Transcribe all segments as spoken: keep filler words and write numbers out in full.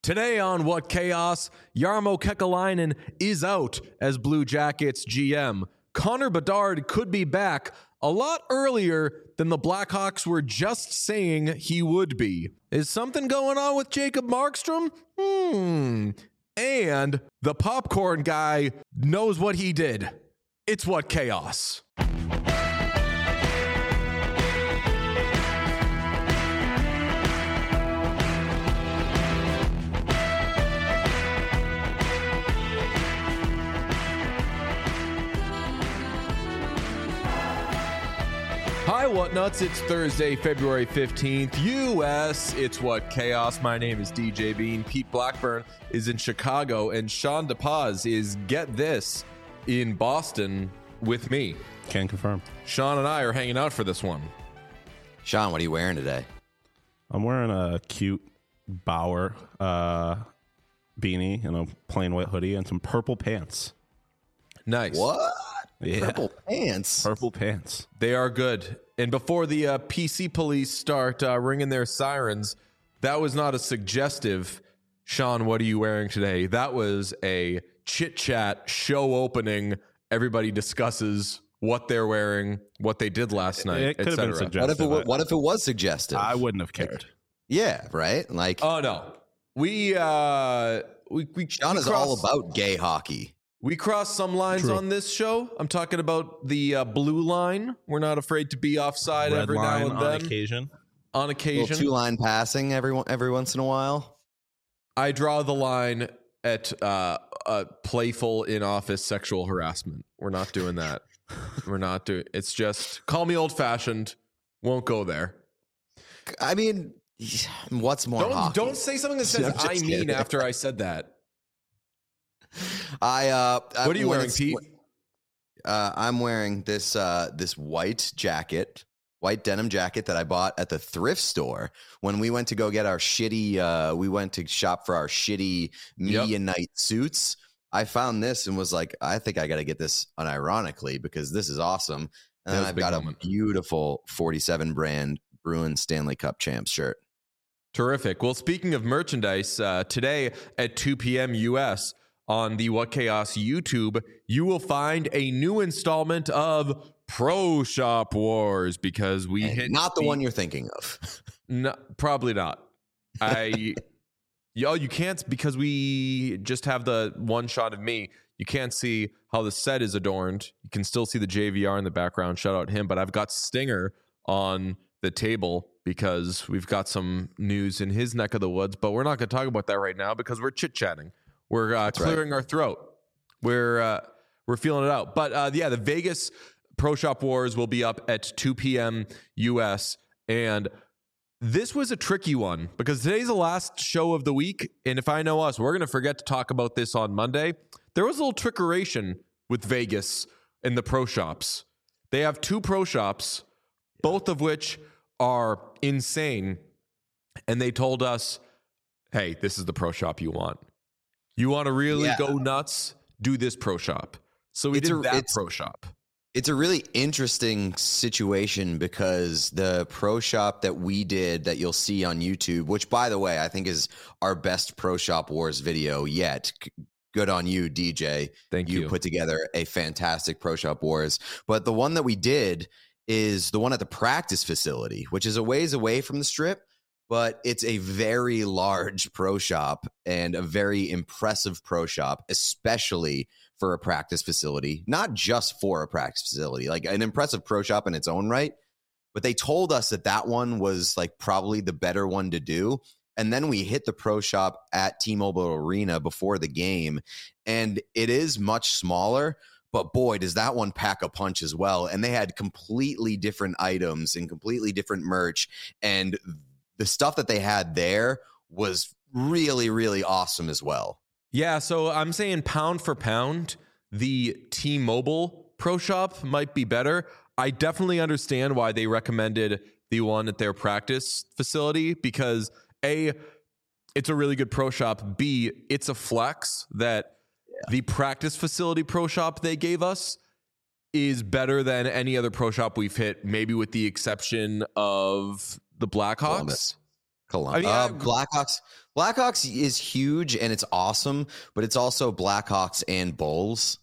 Today on What Chaos, Jarmo Kekalainen is out as Blue Jackets G M. Connor Bedard could be back a lot earlier than the Blackhawks were just saying he would be. Is something going on with Jacob Markstrom? Hmm. And the popcorn guy knows what he did. It's What Chaos. Hi, Whatnuts. It's Thursday, February fifteenth, U S. It's What Chaos. My name is D J Bean. Pete Blackburn is in Chicago, and Sean DePaz is, get this, in Boston with me. Can confirm. Sean and I are hanging out for this one. Sean, what are you wearing today? I'm wearing a cute Bauer uh, beanie and a plain white hoodie and some purple pants. Nice. What? Yeah. Purple pants. Purple pants. They are good. And before the uh, P C police start uh, ringing their sirens, that was not a suggestive, Sean, what are you wearing today? That was a chit-chat show opening. Everybody discusses what they're wearing, what they did last night, It could have been suggestive. What if it, wa- what if it was suggestive? I wouldn't have cared. Yeah, right? Like, Oh, no. We, uh, we, we, Sean we is cross- all about gay hockey. We cross some lines True. on this show. I'm talking about the uh, blue line. We're not afraid to be offside Red every line now and on then. occasion. On Little occasion. two-line passing every, one- every once in a while. I draw the line at uh, uh, playful in-office sexual harassment. We're not doing that. We're not doing. It's just call me old-fashioned. Won't go there. I mean, what's more Don't hockey? don't say something that says I'm just I mean kidding. after I said that. I uh, What are you when wearing, it's- Pete? Uh, I'm wearing this uh, this white jacket, white denim jacket that I bought at the thrift store when we went to go get our shitty. Uh, we went to shop for our shitty media Yep. night suits. I found this and was like, I think I got to get this unironically because this is awesome. That And then was a I've big got moment. a beautiful forty-seven brand Bruins Stanley Cup champs shirt. Terrific. Well, speaking of merchandise, uh, today at two p.m. U S on the What Chaos YouTube, you will find a new installment of Pro Shop Wars because we And hit not the one you're thinking of. No, probably not. I, yo, you can't because we just have the one shot of me. You can't see how the set is adorned. You can still see the J V R in the background. Shout out him. But I've got Stinger on the table because we've got some news in his neck of the woods. But we're not going to talk about that right now because we're chit chatting. We're uh, clearing our throat. We're uh, we're feeling it out. But uh, yeah, the Vegas Pro Shop Wars will be up at two p.m. U S and this was a tricky one because today's the last show of the week. And if I know us, we're going to forget to talk about this on Monday. There was a little trickeration with Vegas and the pro shops. They have two pro shops, both of which are insane. And they told us, hey, this is the pro shop you want. You want to really Yeah. go nuts? Do this pro shop. So we It's did a- that it's- pro shop. It's a really interesting situation because the pro shop that we did that you'll see on YouTube, which by the way, I think is our best Pro Shop Wars video yet. C- Good on you, D J. Thank You you. put together a fantastic Pro Shop Wars. But the one that we did is the one at the practice facility, which is a ways away from the strip, but it's a very large pro shop and a very impressive pro shop, especially for a practice facility, not just for a practice facility, like an impressive pro shop in its own right. But they told us that that one was like probably the better one to do. And then we hit the pro shop at T-Mobile Arena before the game, and it is much smaller, but boy, does that one pack a punch as well. And they had completely different items and completely different merch. And the stuff that they had there was really, really awesome as well. Yeah, so I'm saying pound for pound, the T-Mobile Pro Shop might be better. I definitely understand why they recommended the one at their practice facility because A, it's a really good pro shop. B, it's a flex that the practice facility pro shop they gave us is better than any other pro shop we've hit, maybe with the exception of the Blackhawks. Columbus. Colum- I mean, uh, I- Blackhawks. Blackhawks is huge and it's awesome, but it's also Blackhawks and Bulls.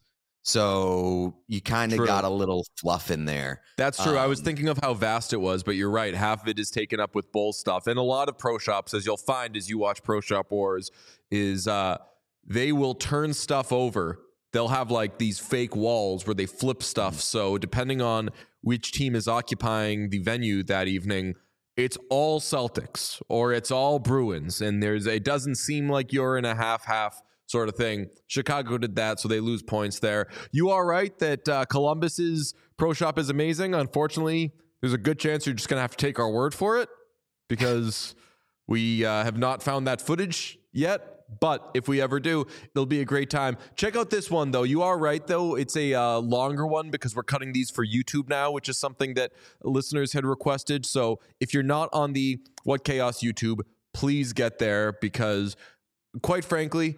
So you kind of True. got a little fluff in there. That's true. I was Um, thinking of how vast it was, but you're right. Half of it is taken up with Bull stuff. And a lot of pro shops, as you'll find as you watch Pro Shop Wars, is uh, they will turn stuff over. They'll have like these fake walls where they flip stuff. So depending on which team is occupying the venue that evening, it's all Celtics or it's all Bruins. And there's it doesn't seem like you're in a half-half sort of thing. Chicago did that, so they lose points there. You are right that uh, Columbus's pro shop is amazing. Unfortunately, there's a good chance you're just going to have to take our word for it because we uh, have not found that footage yet. But if we ever do, it'll be a great time. Check out this one, though. You are right, though. It's a uh, longer one because we're cutting these for YouTube now, which is something that listeners had requested. So if you're not on the What Chaos YouTube, please get there because, quite frankly,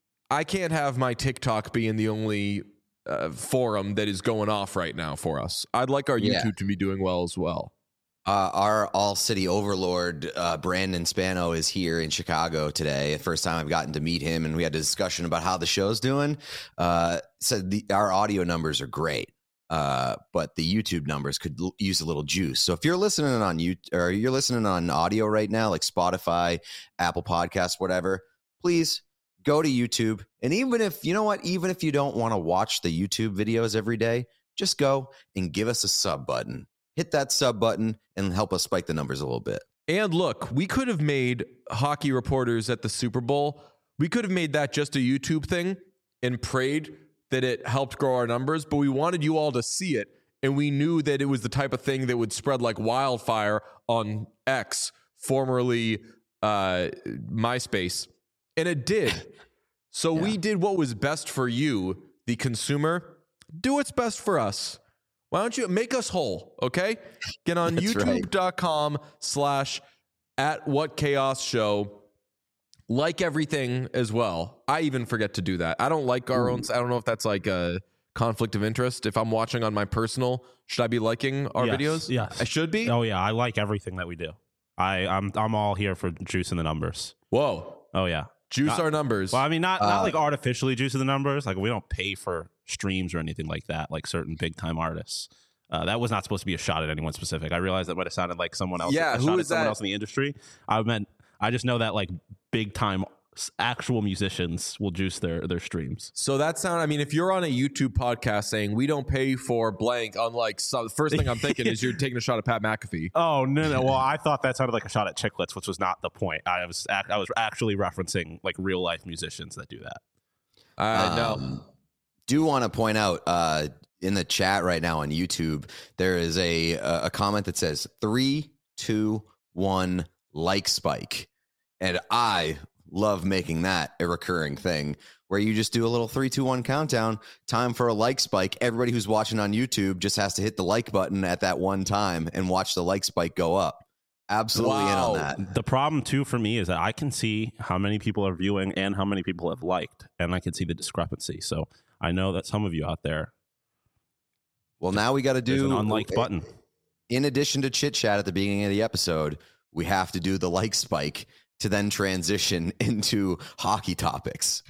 I can't have my TikTok being the only uh, forum that is going off right now for us. I'd like our Yeah. YouTube to be doing well as well. Uh, our all city overlord, uh, Brandon Spano, is here in Chicago today. The first time I've gotten to meet him, and we had a discussion about how the show's doing. Uh, said the, our audio numbers are great, uh, but the YouTube numbers could l- use a little juice. So if you're listening on you or you're listening on audio right now, like Spotify, Apple Podcasts, whatever, please go to YouTube. And even if you know what, even if you don't want to watch the YouTube videos every day, just go and give us a sub button. Hit that sub button and help us spike the numbers a little bit. And look, we could have made hockey reporters at the Super Bowl. We could have made that just a YouTube thing and prayed that it helped grow our numbers, but we wanted you all to see it. And we knew that it was the type of thing that would spread like wildfire on X, formerly uh, MySpace. And it did. So Yeah. we did what was best for you, the consumer. Do what's best for us. Why don't you make us whole, okay? Get on That's right. youtube.com slash at what chaos show. Like everything as well. I even forget to do that. I don't like our own. I don't know if that's like a conflict of interest. If I'm watching on my personal, should I be liking our Yes, videos? yes. I should be. Oh yeah, I like everything that we do. I I'm I'm all here for juicing the numbers. Whoa. Oh yeah. Juice Not- our numbers. Well, I mean, not not Uh, like artificially juicing the numbers. Like we don't pay for streams or anything like that. Like certain big time artists. Uh, that was not supposed to be a shot at anyone specific. I realized that might have sounded like someone else. Yeah, a who shot is at someone that? else in the industry. I meant I just know that like big time actual musicians will juice their their streams. So that sound, I mean, if you're on a YouTube podcast saying we don't pay for blank, unlike some, the first thing I'm thinking is you're taking a shot at Pat McAfee. Oh no no! Well, I thought that sounded like a shot at Chiclets, which was not the point. I was ac- I was actually referencing like real life musicians that do that. I know. Um, do want to point out uh, in the chat right now on YouTube, there is a a comment that says three, two, one, like spike, and I love making that a recurring thing where you just do a little three, two, one countdown. Time for a like spike. Everybody who's watching on YouTube just has to hit the like button at that one time and watch the like spike go up. Absolutely in Wow. on that. The problem too for me is that I can see how many people are viewing and how many people have liked, and I can see the discrepancy. So I know that some of you out there, Well, now we got to there's do an unliked button. In addition to chit chat at the beginning of the episode, we have to do the like spike to then transition into hockey topics.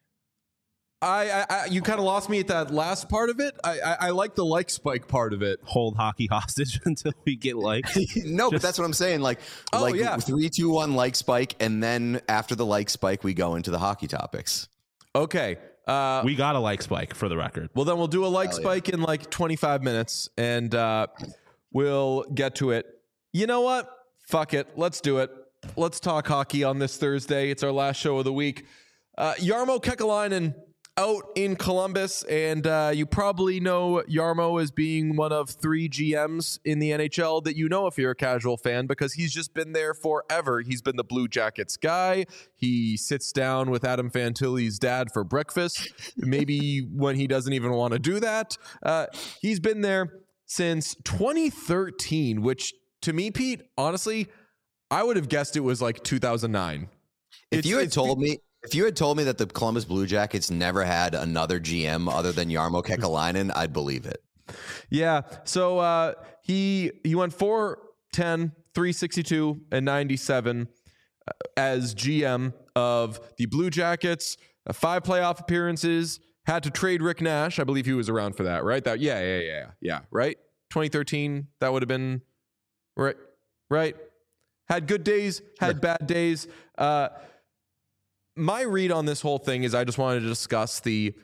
I, I, I you kind of lost me at that last part of it. I, I, I like the like spike part of it. Hold hockey hostage until we get liked. no, but Just- that's what I'm saying. Like, Oh, like yeah. three, two, one, like spike, and then after the like spike, we go into the hockey topics. Okay. Uh, We got a like spike for the record. well, then we'll do a like Hell yeah. spike in like twenty-five minutes, and uh, we'll get to it. You know what? Fuck it. Let's do it. Let's talk hockey on this Thursday. It's our last show of the week. Uh, Jarmo Kekalainen out in Columbus, and uh, you probably know Jarmo as being one of three G Ms in the N H L that you know if you're a casual fan, because he's just been there forever. He's been the Blue Jackets guy. He sits down with Adam Fantilli's dad for breakfast, maybe when he doesn't even want to do that. Uh, he's been there since twenty thirteen, which to me, Pete, honestly, I would have guessed it was like two thousand nine. If It's- you had it's- told me, if you had told me that the Columbus Blue Jackets never had another G M other than Jarmo Kekalainen, I'd believe it. Yeah. So uh, he he went four ten, three sixty-two, and ninety-seven. as G M of the Blue Jackets, uh, five playoff appearances, had to trade Rick Nash. I believe he was around for that, right? That yeah, yeah, yeah, yeah, right? twenty thirteen, that would have been right, right? Had good days, had bad days. Uh, my read on this whole thing is I just wanted to discuss the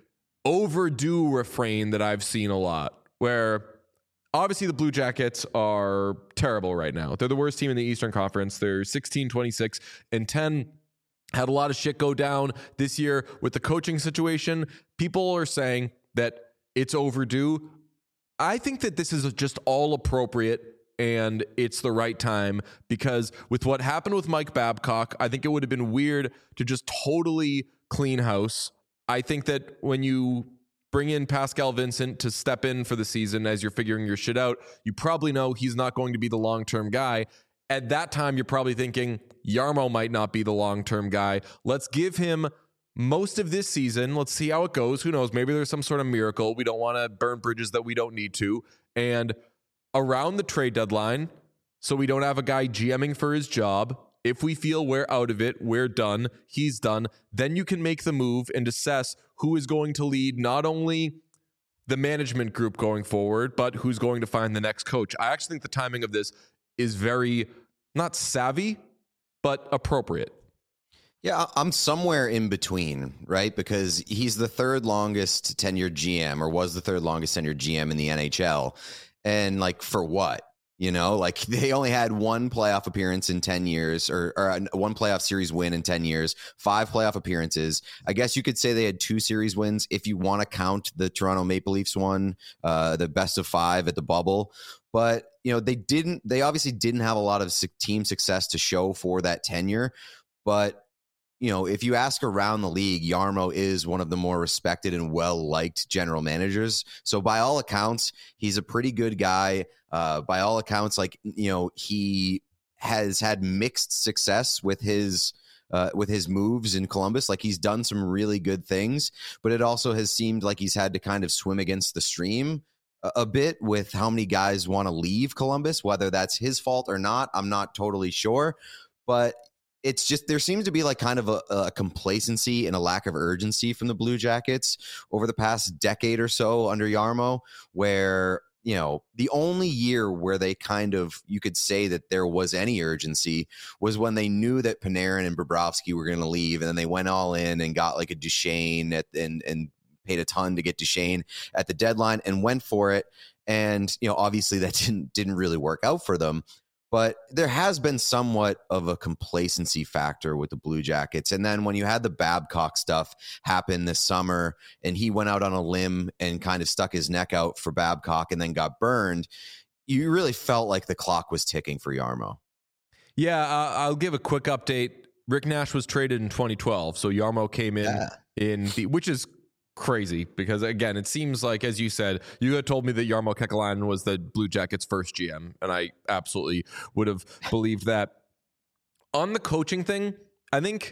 overdue refrain that I've seen a lot, where obviously the Blue Jackets are terrible right now. They're the worst team in the Eastern Conference. They're sixteen, twenty-six, and ten. Had a lot of shit go down this year with the coaching situation. People are saying that it's overdue. I think that this is just all appropriate and it's the right time, because with what happened with Mike Babcock, I think it would have been weird to just totally clean house. I think that when you bring in Pascal Vincent to step in for the season as you're figuring your shit out, you probably know he's not going to be the long-term guy. At that time, you're probably thinking Jarmo might not be the long-term guy. Let's give him most of this season. Let's see how it goes. Who knows? Maybe there's some sort of miracle. We don't want to burn bridges that we don't need to. And around the trade deadline, so we don't have a guy GMing for his job, if we feel we're out of it, we're done, he's done, then you can make the move and assess who is going to lead not only the management group going forward, but who's going to find the next coach. I actually think the timing of this is very, not savvy, but appropriate. Yeah, I'm somewhere in between, right? Because he's the third longest tenured G M, or was the third longest tenured G M in the N H L. And like, for what? You know, like they only had one playoff appearance in ten years, or, or one playoff series win in ten years, five playoff appearances. I guess you could say they had two series wins if you want to count the Toronto Maple Leafs one, uh, the best of five at the bubble. But, you know, they didn't, they obviously didn't have a lot of team success to show for that tenure. But, you know, if you ask around the league, Jarmo is one of the more respected and well-liked general managers. So by all accounts, he's a pretty good guy. Uh, by all accounts, like, you know, he has had mixed success with his uh, with his moves in Columbus. Like, he's done some really good things, but it also has seemed like he's had to kind of swim against the stream a, a bit with how many guys want to leave Columbus. Whether that's his fault or not, I'm not totally sure. But it's just, there seems to be like kind of a, a complacency and a lack of urgency from the Blue Jackets over the past decade or so under Jarmo, where, you know, the only year where they kind of, you could say that there was any urgency was when they knew that Panarin and Bobrovsky were going to leave, and then they went all in and got like a Duchesne at, and and paid a ton to get Duchesne at the deadline and went for it. And, you know, obviously that didn't didn't really work out for them. But there has been somewhat of a complacency factor with the Blue Jackets. And then when you had the Babcock stuff happen this summer, and he went out on a limb and kind of stuck his neck out for Babcock and then got burned, you really felt like the clock was ticking for Jarmo. Yeah, uh, I'll give a quick update. Rick Nash was traded in twenty twelve, so Jarmo came in yeah. in the, which is crazy, because again, it seems like, as you said, you had told me that Jarmo Kekalainen was the Blue Jackets' first G M, and I absolutely would have believed that. On the coaching thing, I think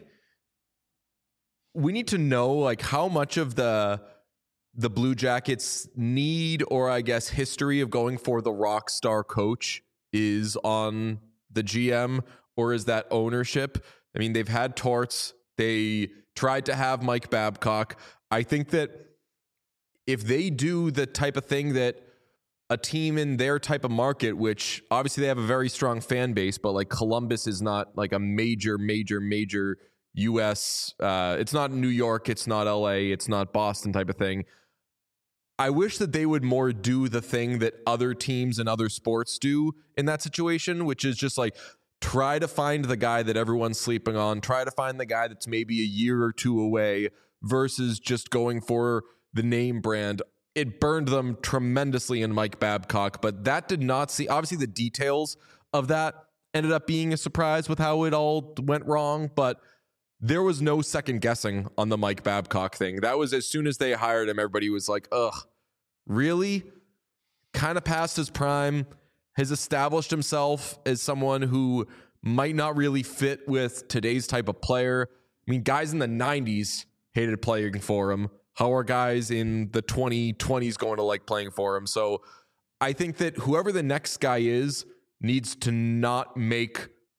we need to know like how much of the the Blue Jackets need, or I guess history of going for the rock star coach, is on the G M, or is that ownership? I mean, they've had Torts, they tried to have Mike Babcock. I think that if they do the type of thing that a team in their type of market, which obviously they have a very strong fan base, but like Columbus is not like a major, major, major U S, uh, it's not New York, it's not L A, it's not Boston type of thing. I wish that they would more do the thing that other teams and other sports do in that situation, which is just like try to find the guy that everyone's sleeping on, try to find the guy that's maybe a year or two away, versus just going for the name brand. It burned them tremendously in Mike Babcock, but that did not see, obviously the details of that ended up being a surprise with how it all went wrong, but there was no second guessing on the Mike Babcock thing. That was as soon as they hired him, everybody was like, ugh, really? Kind of past his prime, has established himself as someone who might not really fit with today's type of player. I mean, guys in the nineties hated playing for him. How are guys in the twenty twenties going to like playing for him? So I think that whoever the next guy is needs to not make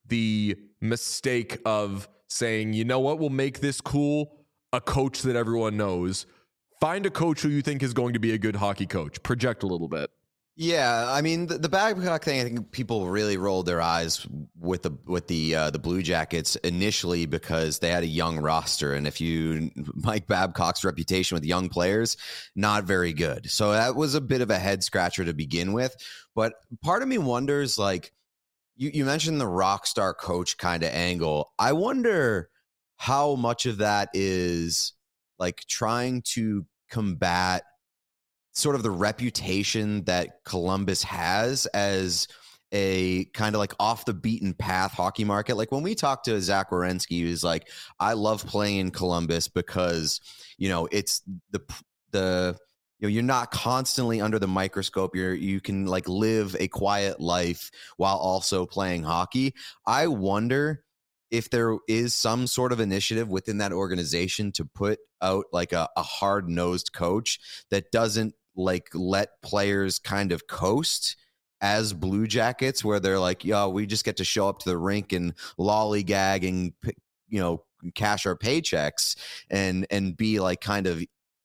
the mistake of saying, you know what will make this cool? A coach that everyone knows. Find a coach who you think is going to be a good hockey coach. Project a little bit. Yeah, I mean the, the Babcock thing. I think people really rolled their eyes with the with the uh, the Blue Jackets initially because they had a young roster, and if you Mike Babcock's reputation with young players, not very good. So that was a bit of a head scratcher to begin with. But part of me wonders, like you you mentioned the rock star coach kind of angle. I wonder how much of that is like trying to combat sort of the reputation that Columbus has as a kind of like off the beaten path hockey market. Like when we talked to Zach Werenski, he was like, I love playing in Columbus because, you know, it's the, the, you know, you're not constantly under the microscope. You're, you can like live a quiet life while also playing hockey. I wonder if there is some sort of initiative within that organization to put out like a, a hard-nosed coach that doesn't like let players kind of coast as Blue Jackets, where they're like, yo, we just get to show up to the rink and lollygag and, you know, cash our paychecks and and be like kind of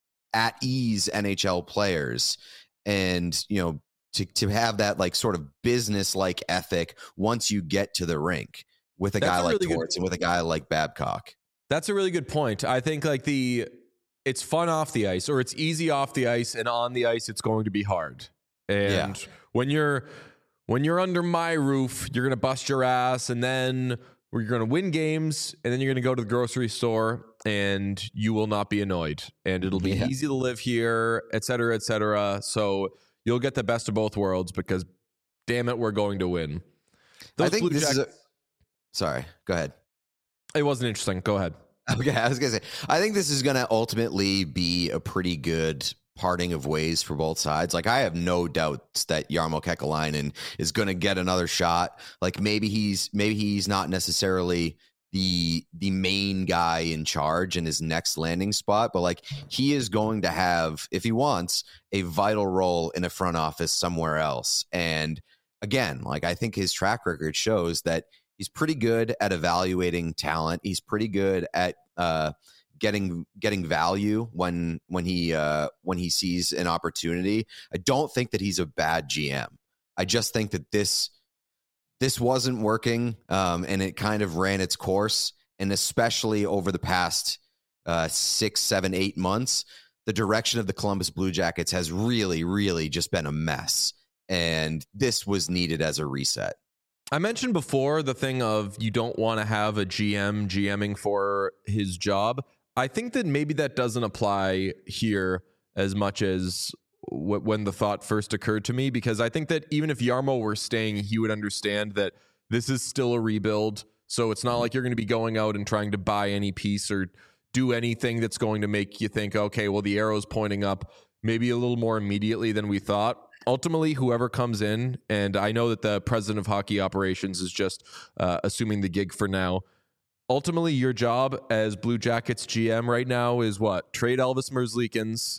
at ease N H L players. And, you know, to to have that like sort of business like ethic once you get to the rink with a That's guy a like really Torts good, and with a guy like Babcock. That's a really good point. I think like the it's fun off the ice, or it's easy off the ice, and on the ice it's going to be hard. And yeah. when you're when you're under my roof, you're gonna bust your ass, and then you're gonna win games, and then you're gonna go to the grocery store, and you will not be annoyed, and it'll be yeah. easy to live here, et cetera, et cetera. So you'll get the best of both worlds because, damn it, we're going to win. Those I think Blue this Jackets, is. A, sorry, go ahead. It wasn't interesting. Go ahead. Okay, I was gonna say, I think this is gonna ultimately be a pretty good parting of ways for both sides. Like, I have no doubts that Jarmo Kekalainen is gonna get another shot. Like, maybe he's maybe he's not necessarily the the main guy in charge in his next landing spot, but like he is going to have, if he wants, a vital role in a front office somewhere else. And again, like I think his track record shows that he's pretty good at evaluating talent. He's pretty good at uh, getting getting value when when he uh, when he sees an opportunity. I don't think that he's a bad G M. I just think that this this wasn't working, um, and it kind of ran its course. And especially over the past uh, six, seven, eight months, the direction of the Columbus Blue Jackets has really, really just been a mess. And this was needed as a reset. I mentioned before the thing of you don't want to have a G M GMing for his job. I think that maybe that doesn't apply here as much as w- when the thought first occurred to me, because I think that even if Jarmo were staying, he would understand that this is still a rebuild. So it's not like you're going to be going out and trying to buy any piece or do anything that's going to make you think, okay, well, the arrow's pointing up maybe a little more immediately than we thought. Ultimately, whoever comes in, and I know that the president of hockey operations is just uh, assuming the gig for now. Ultimately, your job as Blue Jackets G M right now is what? Trade Elvis Merzlikins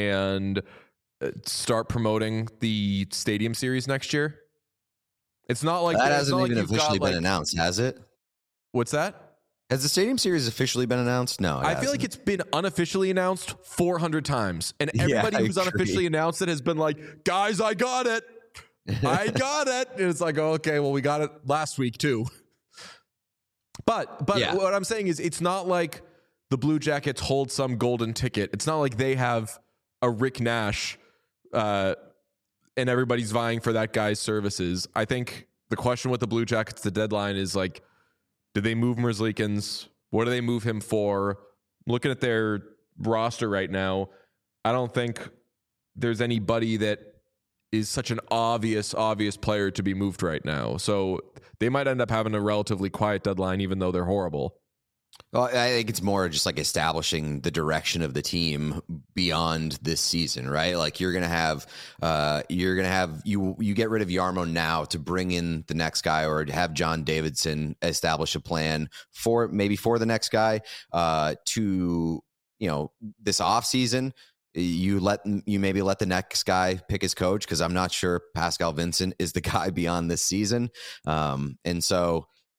and start promoting the Stadium Series next year. It's not like that hasn't even like officially got, been like, announced, has it? What's that? Has the Stadium Series officially been announced? No, I hasn't. feel like it's been unofficially announced four hundred times. And everybody yeah, who's agree. unofficially announced it has been like, guys, I got it. I got it. And it's like, oh, okay, well, we got it last week too. But but yeah. what I'm saying is it's not like the Blue Jackets hold some golden ticket. It's not like they have a Rick Nash uh, and everybody's vying for that guy's services. I think the question with the Blue Jackets, the deadline is like, did they move Merzlikins? What do they move him for? Looking at their roster right now, I don't think there's anybody that is such an obvious, obvious player to be moved right now. So they might end up having a relatively quiet deadline, even though they're horrible. Well, I think it's more just like establishing the direction of the team beyond this season, right? Like you're gonna have, uh, you're gonna have you you get rid of Jarmo now to bring in the next guy, or have John Davidson establish a plan for maybe for the next guy. Uh, to you know this off season, you let you maybe let the next guy pick his coach, because I'm not sure Pascal Vincent is the guy beyond this season, um, and so.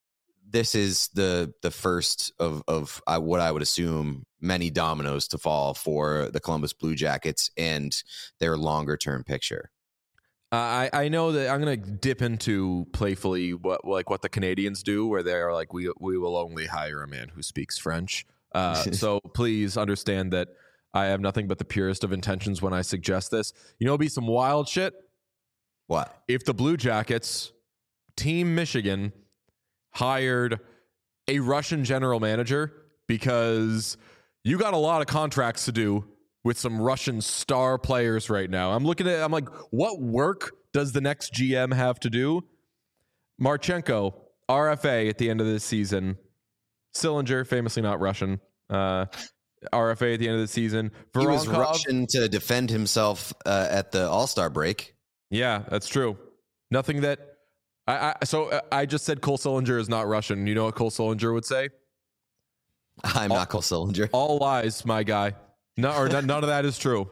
this is the the first of of uh, what I would assume many dominoes to fall for the Columbus Blue Jackets and their longer term picture. Uh, I I know that I'm gonna dip into playfully what like what the Canadians do, where they're like we we will only hire a man who speaks French. Uh, so please understand that I have nothing but the purest of intentions when I suggest this. You know, it'd be some wild shit. What if the Blue Jackets, Team Michigan, hired a Russian general manager, because you got a lot of contracts to do with some Russian star players right now. I'm looking at I'm like, what work does the next G M have to do? Marchenko, R F A at the end of this season. Sillinger, famously not Russian, uh, R F A at the end of the season. Voronkov, he was Voronkov, Russian to defend himself uh, at the All-Star break. Yeah, that's true. Nothing that I, I so uh, I just said Cole Sillinger is not Russian. You know what Cole Sillinger would say? I'm all, not Cole Sillinger. All lies, my guy. No, or none of that is true.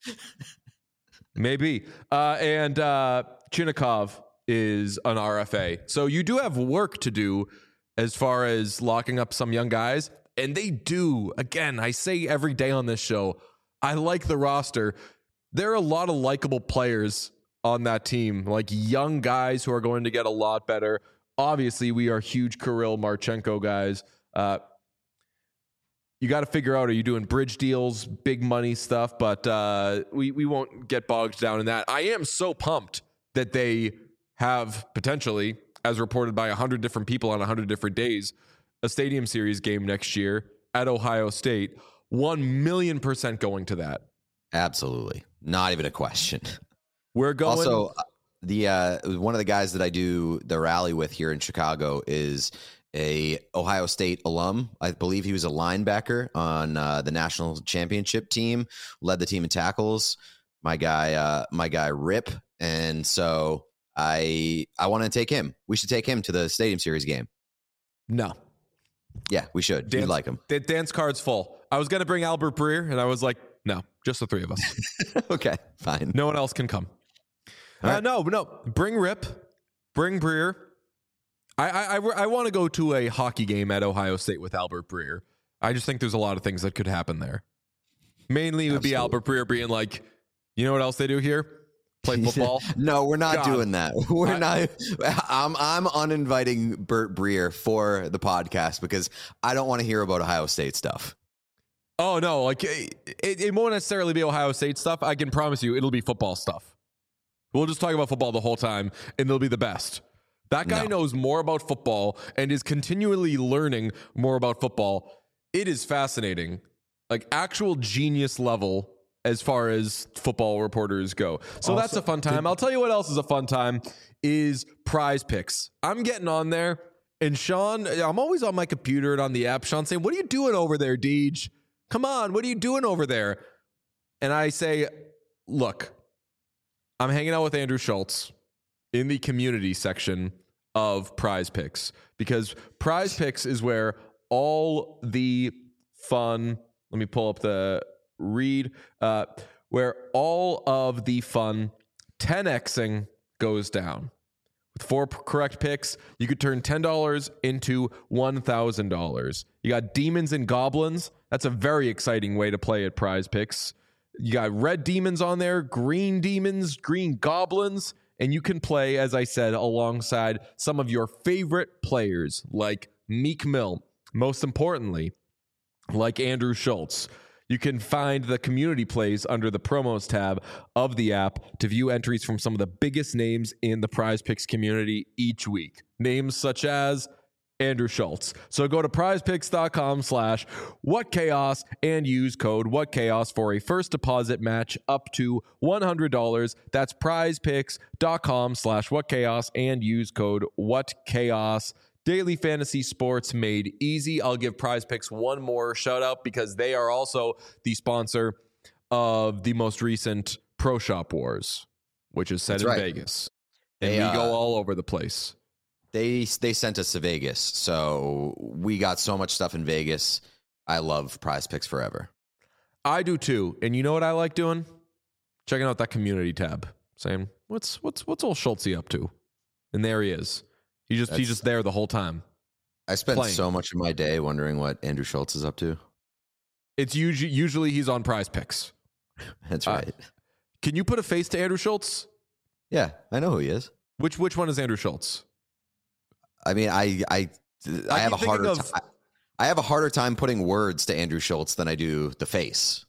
Maybe. Uh, and uh, Chinnikov is an R F A. So you do have work to do as far as locking up some young guys. And they do. Again, I say every day on this show, I like the roster. There are a lot of likable players on that team, like young guys who are going to get a lot better. Obviously, we are huge Kirill Marchenko guys. Uh, you got to figure out, are you doing bridge deals, big money stuff? But uh, we, we won't get bogged down in that. I am so pumped that they have potentially, as reported by one hundred different people on one hundred different days, a Stadium Series game next year at Ohio State. one million percent going to that. Absolutely. Not even a question. We're going. Also, the uh, one of the guys that I do the rally with here in Chicago is a Ohio State alum. I believe he was a linebacker on uh, the national championship team, led the team in tackles. My guy, uh, my guy Rip. And so I I want to take him. We should take him to the Stadium Series game. No. Yeah, we should. Dance, We'd like him. The dance card's full. I was going to bring Albert Breer, and I was like, no, just the three of us. Okay, fine. No one else can come. Uh, right. No, no. Bring Rip. Bring Breer. I I, I, I want to go to a hockey game at Ohio State with Albert Breer. I just think there's a lot of things that could happen there. Mainly it would Absolutely. be Albert Breer being like, you know what else they do here? Play football. No, we're not God. doing that. We're I, not. I'm I'm uninviting Bert Breer for the podcast because I don't want to hear about Ohio State stuff. Oh no, like it, it won't necessarily be Ohio State stuff. I can promise you, it'll be football stuff. We'll just talk about football the whole time, and it'll be the best. That guy no. knows more about football and is continually learning more about football. It is fascinating, like actual genius level. As far as football reporters go. So also, that's a fun time. I'll tell you what else is a fun time is Prize Picks. I'm getting on there, and Sean, I'm always on my computer and on the app. Sean saying, what are you doing over there, Deej? Come on, what are you doing over there? And I say, look, I'm hanging out with Andrew Schultz in the community section of Prize Picks, because Prize Picks is where all the fun, let me pull up the read, uh, where all of the fun ten Xing goes down. With four p- correct picks, you could turn ten dollars into one thousand dollars. You got Demons and Goblins. That's a very exciting way to play at Prize Picks. You got red demons on there, green demons, green goblins, and you can play, as I said, alongside some of your favorite players like Meek Mill. Most importantly, like Andrew Schultz. You can find the community plays under the promos tab of the app to view entries from some of the biggest names in the Prize Picks community each week. Names such as Andrew Schultz. So go to prizepicks.com slash whatchaos and use code whatchaos for a first deposit match up to one hundred dollars. That's prizepicks.com slash whatchaos and use code whatchaos. Daily fantasy sports made easy. I'll give Prize Picks one more shout out because they are also the sponsor of the most recent Pro Shop Wars, which is set That's in right. Vegas. And they, we uh, go all over the place. They they sent us to Vegas, so we got so much stuff in Vegas. I love Prize Picks forever. I do too. And you know what I like doing? Checking out that community tab, saying, what's what's what's old Schultzy up to? And there he is. He just That's, he's just there the whole time. I spend playing. so much of my day wondering what Andrew Schultz is up to. It's usually usually he's on Prize Picks. That's Uh, right. Can you put a face to Andrew Schultz? Yeah, I know who he is. Which which one is Andrew Schultz? I mean, I I I, I have a keep harder thinking of- ti- I have a harder time putting words to Andrew Schultz than I do the face.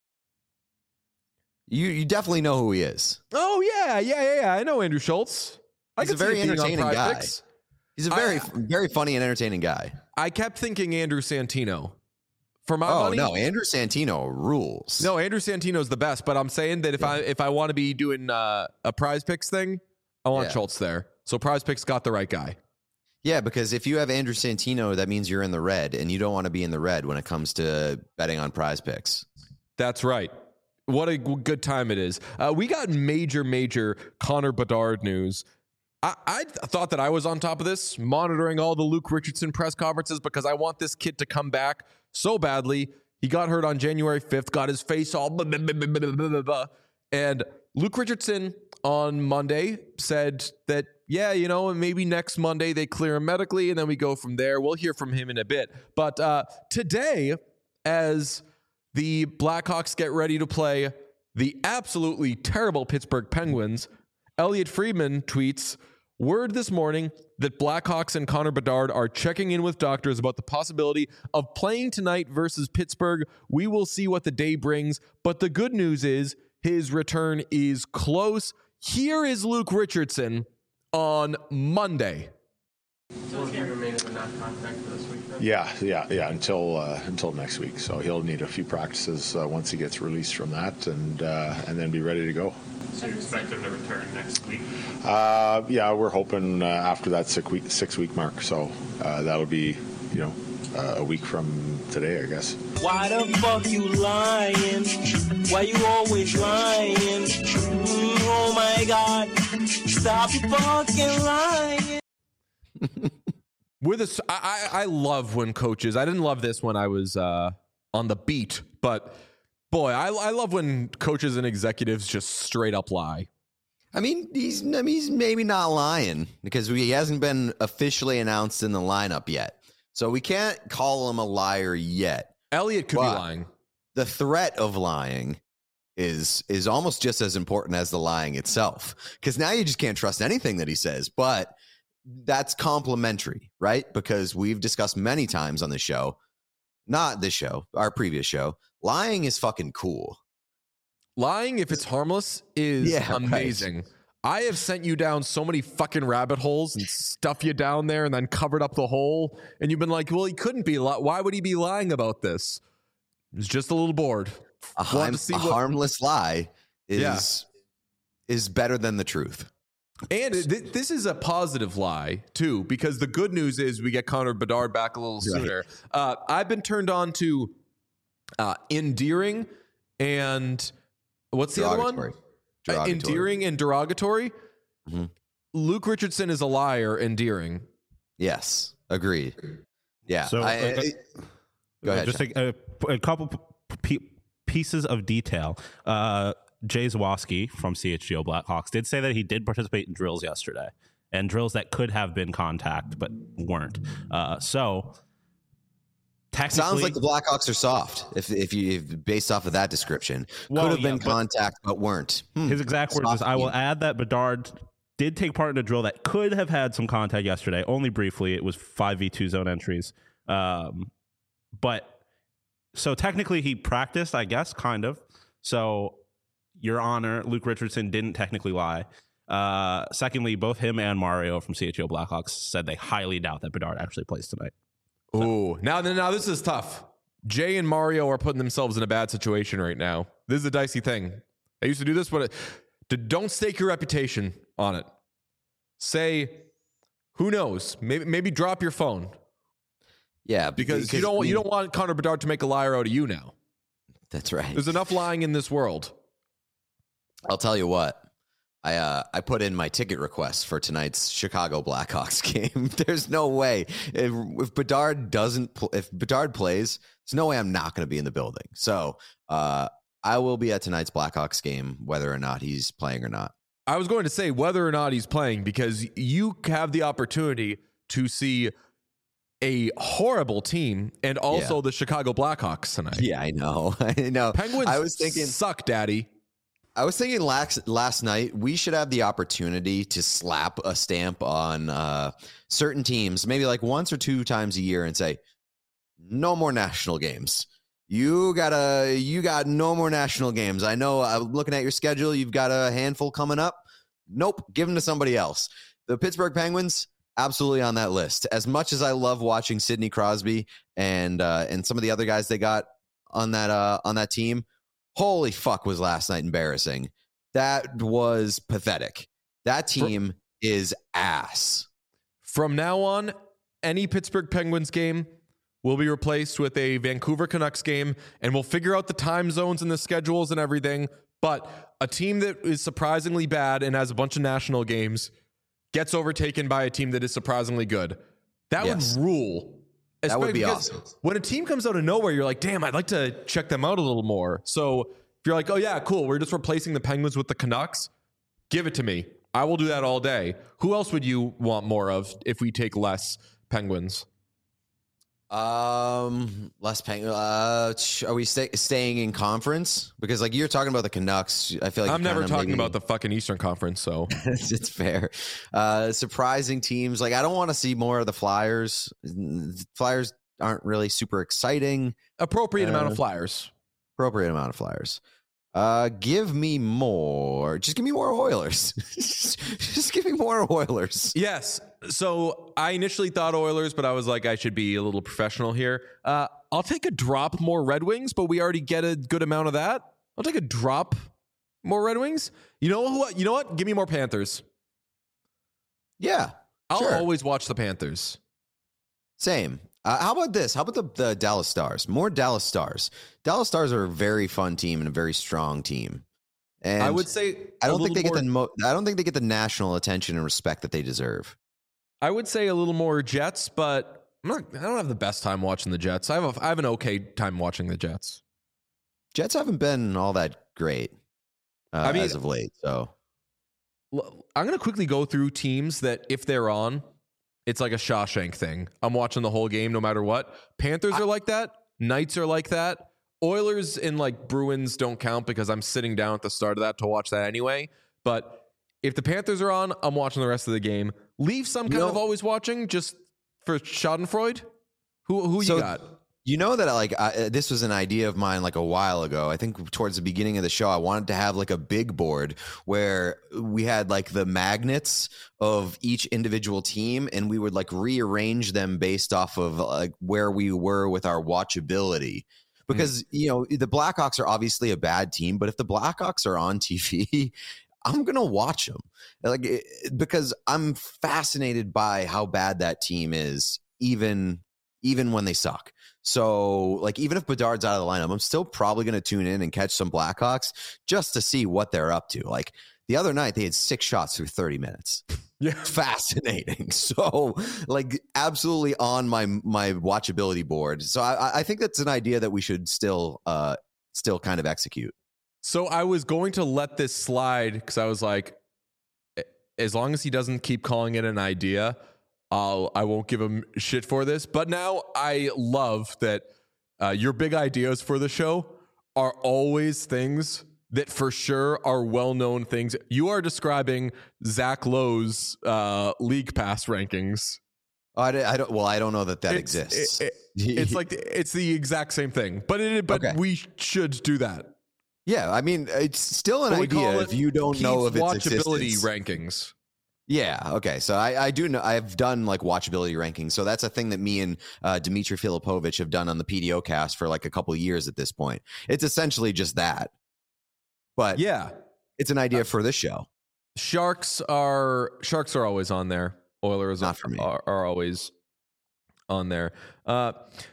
You you definitely know who he is. Oh yeah, yeah, yeah, yeah. I know Andrew Schultz. I He's a could see very it being on entertaining Prize guy. Picks. He's a very I- very funny and entertaining guy. I kept thinking Andrew Santino. For my Oh money, no, Andrew Santino rules. no, Andrew Santino's the best. But I'm saying that if Yeah. I if I want to be doing uh, a Prize Picks thing, I want Yeah. Schultz there. So Prize Picks got the right guy. Yeah, because if you have Andrew Santino, that means you're in the red, and you don't want to be in the red when it comes to betting on Prize Picks. That's right. What a g- good time it is. Uh, we got major, major Connor Bedard news. I, I th- thought that I was on top of this, monitoring all the Luke Richardson press conferences because I want this kid to come back so badly. He got hurt on January fifth, got his face all blah, blah, blah, blah, blah, blah, blah, blah. And Luke Richardson on Monday said that, yeah, you know, maybe next Monday they clear him medically and then we go from there. We'll hear from him in a bit. But uh, today, as the Blackhawks get ready to play the absolutely terrible Pittsburgh Penguins, Elliot Friedman tweets, word this morning that Blackhawks and Connor Bedard are checking in with doctors about the possibility of playing tonight versus Pittsburgh. We will see what the day brings, but the good news is his return is close. Here is Luke Richardson on Monday. Will he remain in non-contact for this week? Then? Yeah, yeah, yeah. Until uh, until next week. So he'll need a few practices uh, once he gets released from that, and uh, and then be ready to go. So you expect him to return next week? Uh, yeah, we're hoping uh, after that six week six week mark. So uh, that'll be you know uh, a week from today, I guess. Why the fuck you lying? Why you always lying? Mm, oh my God! Stop fucking lying. With a, I, I I love when coaches. I didn't love this when I was uh, on the beat, but boy, I, I love when coaches and executives just straight up lie. I mean, he's I mean, he's maybe not lying because he hasn't been officially announced in the lineup yet, so we can't call him a liar yet. Elliot could But be lying. The threat of lying is is almost just as important as the lying itself, because now you just can't trust anything that he says. But that's complimentary, right? Because we've discussed many times on the show, not this show, our previous show, lying is fucking cool. Lying, if it's harmless, is Yeah, right. amazing. I have sent you down so many fucking rabbit holes and stuff you down there and then covered up the hole. And you've been like, well, he couldn't be. Li- Why would he be lying about this? He was just a little bored. A, Wanted harm, to see a what- harmless lie is Yeah. is better than the truth. And th- this is a positive lie, too, because the good news is we get Connor Bedard back a little Right. sooner. Uh, I've been turned on to uh, endearing and what's the other one? Derogatory. Uh, Derogatory. endearing and derogatory. Mhm. Luke Richardson is a liar, endearing. Yes, agreed. Yeah. So, I, uh, I- go ahead. Just John. a, a, a couple p- p- pieces of detail. Uh, Jay Zawoski from C H G O Blackhawks did say that he did participate in drills yesterday, and drills that could have been contact but weren't. Uh, so technically, Sounds like the Blackhawks are soft. If if you if, based off of that description, Well, could have yeah, been but- contact but weren't. Hmm. his exact words is, Soft "I will team. add that Bedard did take part in a drill that could have had some contact yesterday, only briefly. It was five v two zone entries, um, but so technically he practiced, I guess, kind of. So, Your Honor, Luke Richardson didn't technically lie. Uh, secondly, both him and Mario from C H O Blackhawks said they highly doubt that Bedard actually plays tonight. Ooh, now, now this is tough. Jay and Mario are putting themselves in a bad situation right now. This is a dicey thing. I used to do this, but it, don't stake your reputation on it. Say, who knows? Maybe maybe drop your phone Yeah, because you don't we- you don't want Connor Bedard to make a liar out of you now. That's right. There's enough lying in this world. I'll tell you what. I uh, I put in my ticket request for tonight's Chicago Blackhawks game. There's no way if, if Bedard doesn't pl- if Bedard plays, there's no way I'm not going to be in the building. So uh, I will be at tonight's Blackhawks game, whether or not he's playing or not. I was going to say whether or not he's playing because you have the opportunity to see a horrible team, and also Yeah. the Chicago Blackhawks tonight. Yeah, I know. I know. Penguins I was thinking suck, daddy. I was thinking last last night we should have the opportunity to slap a stamp on uh, certain teams, maybe like once or two times a year, and say, "No more national games. You gotta, you got no more national games. I know. I'm looking at your schedule. You've got a handful coming up. Nope, give them to somebody else." The Pittsburgh Penguins, absolutely on that list. As much as I love watching Sidney Crosby and uh, and some of the other guys they got on that uh, on that team. Holy fuck, was last night embarrassing. That was pathetic. That team is ass. From now on, any Pittsburgh Penguins game will be replaced with a Vancouver Canucks game, and we'll figure out the time zones and the schedules and everything. But a team that is surprisingly bad and has a bunch of national games gets overtaken by a team that is surprisingly good. That Yes. would rule. That would be Because awesome. When a team comes out of nowhere, you're like, damn, I'd like to check them out a little more. So if you're like, oh, yeah, cool, we're just replacing the Penguins with the Canucks, give it to me. I will do that all day. Who else would you want more of if we take less Penguins? Um, less Penguins. Uh, ch- are we stay- staying in conference? Because like you're talking about the Canucks. I feel like I'm you're never kinda talking maybe- about the fucking Eastern Conference, so. it's fair. Uh, surprising teams. Like I don't want to see more of the Flyers. Flyers aren't really super exciting. Appropriate amount Uh, of Flyers. Appropriate amount of Flyers. Uh, give me more. Just give me more Oilers. Just give me more Oilers. Yes. So I initially thought Oilers, but I was like, I should be a little professional here. Uh, I'll take a drop more Red Wings, but we already get a good amount of that. I'll take a drop more Red Wings. You know what? You know what? Give me more Panthers. Yeah, I'll sure. always watch the Panthers. Same. Uh, how about this? How about the, the Dallas Stars? More Dallas Stars. Dallas Stars are a very fun team and a very strong team. And I would say I a don't think they little get more- the mo- I don't think they get the national attention and respect that they deserve. I would say a little more Jets, but I'm not. I don't have the best time watching the Jets. I have a, I have an okay time watching the Jets. Jets haven't been all that great uh, I mean- as of late. So L- I'm going to quickly go through teams that if they're on, it's like a Shawshank thing. I'm watching the whole game no matter what. Panthers are like that. Knights are like that. Oilers and like Bruins don't count because I'm sitting down at the start of that to watch that anyway. But if the Panthers are on, I'm watching the rest of the game. Leafs, I'm kind know- of always watching just for Schadenfreude. Who who So- you got? you know that like I, this was an idea of mine like a while ago. I think towards the beginning of the show, I wanted to have like a big board where we had like the magnets of each individual team, and we would like rearrange them based off of like where we were with our watchability. Because you know the Blackhawks are obviously a bad team, but if the Blackhawks are on T V, I'm gonna watch them like it, because I'm fascinated by how bad that team is, even even when they suck. So, like, even if Bedard's out of the lineup, I'm still probably going to tune in and catch some Blackhawks just to see what they're up to. Like, the other night, they had six shots through thirty minutes. Yeah. Fascinating. So, like, absolutely on my my watchability board. So, I, I think that's an idea that we should still uh still kind of execute. So I was going to let this slide because I was like, as long as he doesn't keep calling it an idea, I'll, I won't give him shit for this. But now I love that uh, your big ideas for the show are always things that for sure are well-known things. You are describing Zach Lowe's uh, league pass rankings. Oh, I, don't- I don't. Well, I don't know that that It's- exists. it- it- it's like it's the exact same thing, but it, but Okay. we should do that. yeah, I mean, it's still an But we call idea it if you don't know of Pete's its watchability existence. rankings. Yeah. Okay. So I, I do know I've done like watchability rankings. So that's a thing that me and uh, Dmitry Filipovich have done on the P D O cast for like a couple of years at this point. It's essentially just that, but Yeah. it's an idea for this show. Sharks are Sharks are always on there. Oilers Not for me. Are, are always on there. Uh,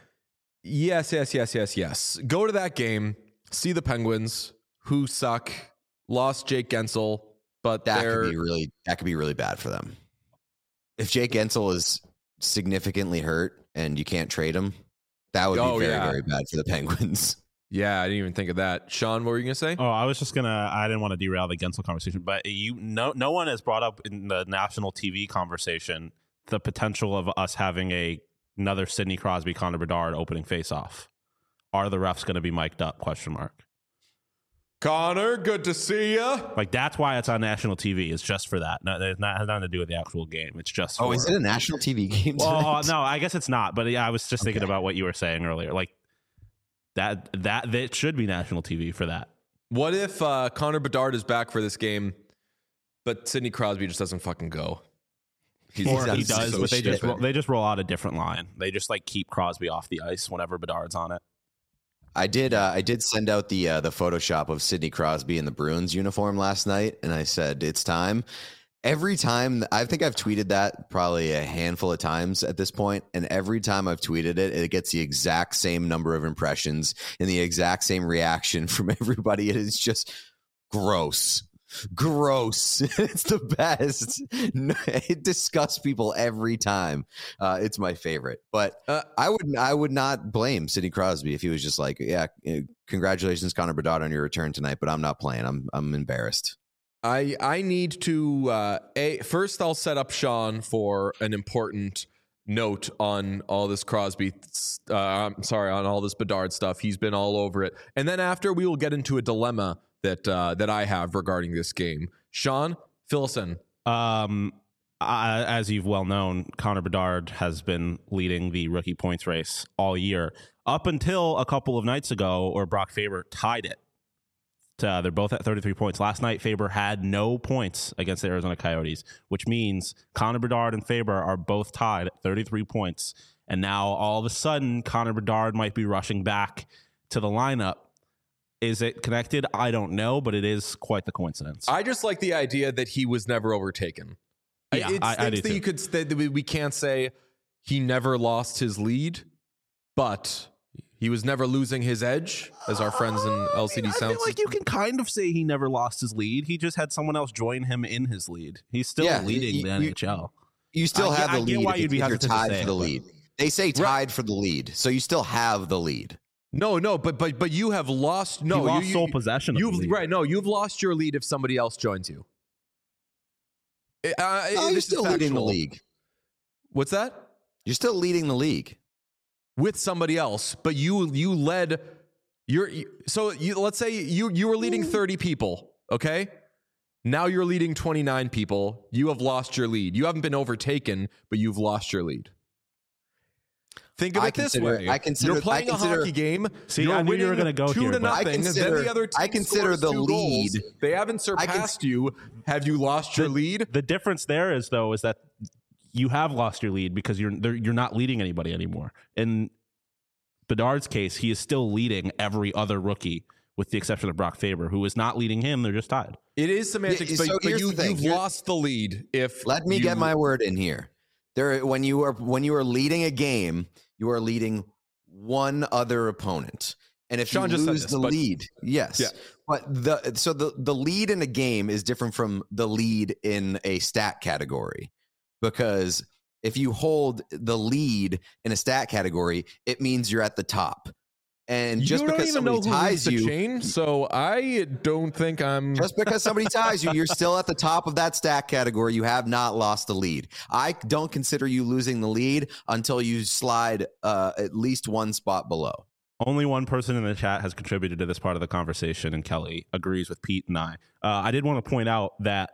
yes, yes, yes, yes, yes. Go to that game. See the Penguins, who suck. Lost Jake Gensel, but That they're could be really that could be really bad for them. If Jake Gensel is significantly hurt and you can't trade him, that would Oh, be very yeah. very bad for the Penguins. yeah. I didn't even think of that. Sean, what were you gonna say? Oh, I was just gonna. I didn't want to derail the Gensel conversation, but you, no, no one has brought up in the national T V conversation the potential of us having a another Sidney Crosby, Connor Bedard opening face-off. Are the refs going to be mic'd up? Question mark. Connor, good to see ya. Like, that's why it's on national T V. It's just for that. No, it's not has nothing to do with the actual game. It's just Oh, for, is it a national T V game well, tonight? no, I guess it's not. But yeah, I was just thinking Okay. about what you were saying earlier. Like that, that that should be national T V for that. What if uh, Connor Bedard is back for this game, but Sidney Crosby just doesn't fucking go? He's, Or sounds he does, so but they just stupid. roll, they just roll out a different line. They just like keep Crosby off the ice whenever Bedard's on it. I did. Uh, I did send out the uh, the Photoshop of Sidney Crosby in the Bruins uniform last night, and I said it's time. Every time, I think I've tweeted that probably a handful of times at this point, and every time I've tweeted it, it gets the exact same number of impressions and the exact same reaction from everybody. It is just gross. Gross. It's the best. It disgusts people every time. Uh, it's my favorite. But Uh, I would I would not blame Sidney Crosby if he was just like, yeah, eh, congratulations, Connor Bedard, on your return tonight, but I'm not playing. I'm I'm embarrassed. I I need to uh, a first. I'll set up Sean for an important note on all this Crosby. Uh, I'm sorry, on all this Bedard stuff. He's been all over it, and then after we will get into a dilemma that uh, that I have regarding this game. Sean, fill us in. Um, I, as you've well known, Connor Bedard has been leading the rookie points race all year up until a couple of nights ago, where Brock Faber tied it. Uh, they're both at thirty-three points. Last night, Faber had no points against the Arizona Coyotes, which means Connor Bedard and Faber are both tied at thirty-three points. And now, all of a sudden, Connor Bedard might be rushing back to the lineup. Is it connected? I don't know, but it is quite the coincidence. I just like the idea that he was never overtaken. Yeah, it I- I stinks do that too. you could that we we can't say he never lost his lead, but he was never losing his edge, as our friends in L C D I Sound. feel like you can kind of say he never lost his lead. He just had someone else join him in his lead. He's still Yeah, leading you- the you- N H L. You still I have get- the I get lead why if, you'd be if you're hesitant to tied say for it, the but- lead. They say tied for the lead, so you still have the lead. No, no, but but but you have lost. No, he lost you, you, sole possession of the You've lead. right. No, you've lost your lead if somebody else joins you. Uh, No, you're this is still leading the factual. league. What's that? You're still leading the league. With somebody else, but you you led. You're you, so you. Let's say you you were leading thirty people. Okay, now you're leading twenty-nine people. You have lost your lead. You haven't been overtaken, but you've lost your lead. Think of I it this consider- way: I consider- you're playing I consider- a hockey game. See, you're I knew you were winning gonna go two here, to but- nothing. I and consider- then the other team I consider scores the two goals. lead- They haven't surpassed you. Have you lost your The- lead? The difference there is, though, is that you have lost your lead because you're they're- you're not leading anybody anymore. In Bedard's case, he is still leading every other rookie, with the exception of Brock Faber, who is not leading him. They're just tied. It is semantics, Yeah, but, so but here's you, the thing. you've Here- lost the lead. If Let me you, get my word in here. There, when you are when you are leading a game, you are leading one other opponent, and if Sean you just said lose this, the but- lead, yes, Yeah. but the so the the lead in a game is different from the lead in a stat category, because if you hold the lead in a stat category, it means you're at the top, and you just don't because even know somebody who leads ties the you, chain, so I don't think I'm. just because somebody ties you, you're still at the top of that stat category. You have not lost the lead. I don't consider you losing the lead until you slide uh, at least one spot below. Only one person in the chat has contributed to this part of the conversation, and Kelly agrees with Pete and I. Uh, I did want to point out that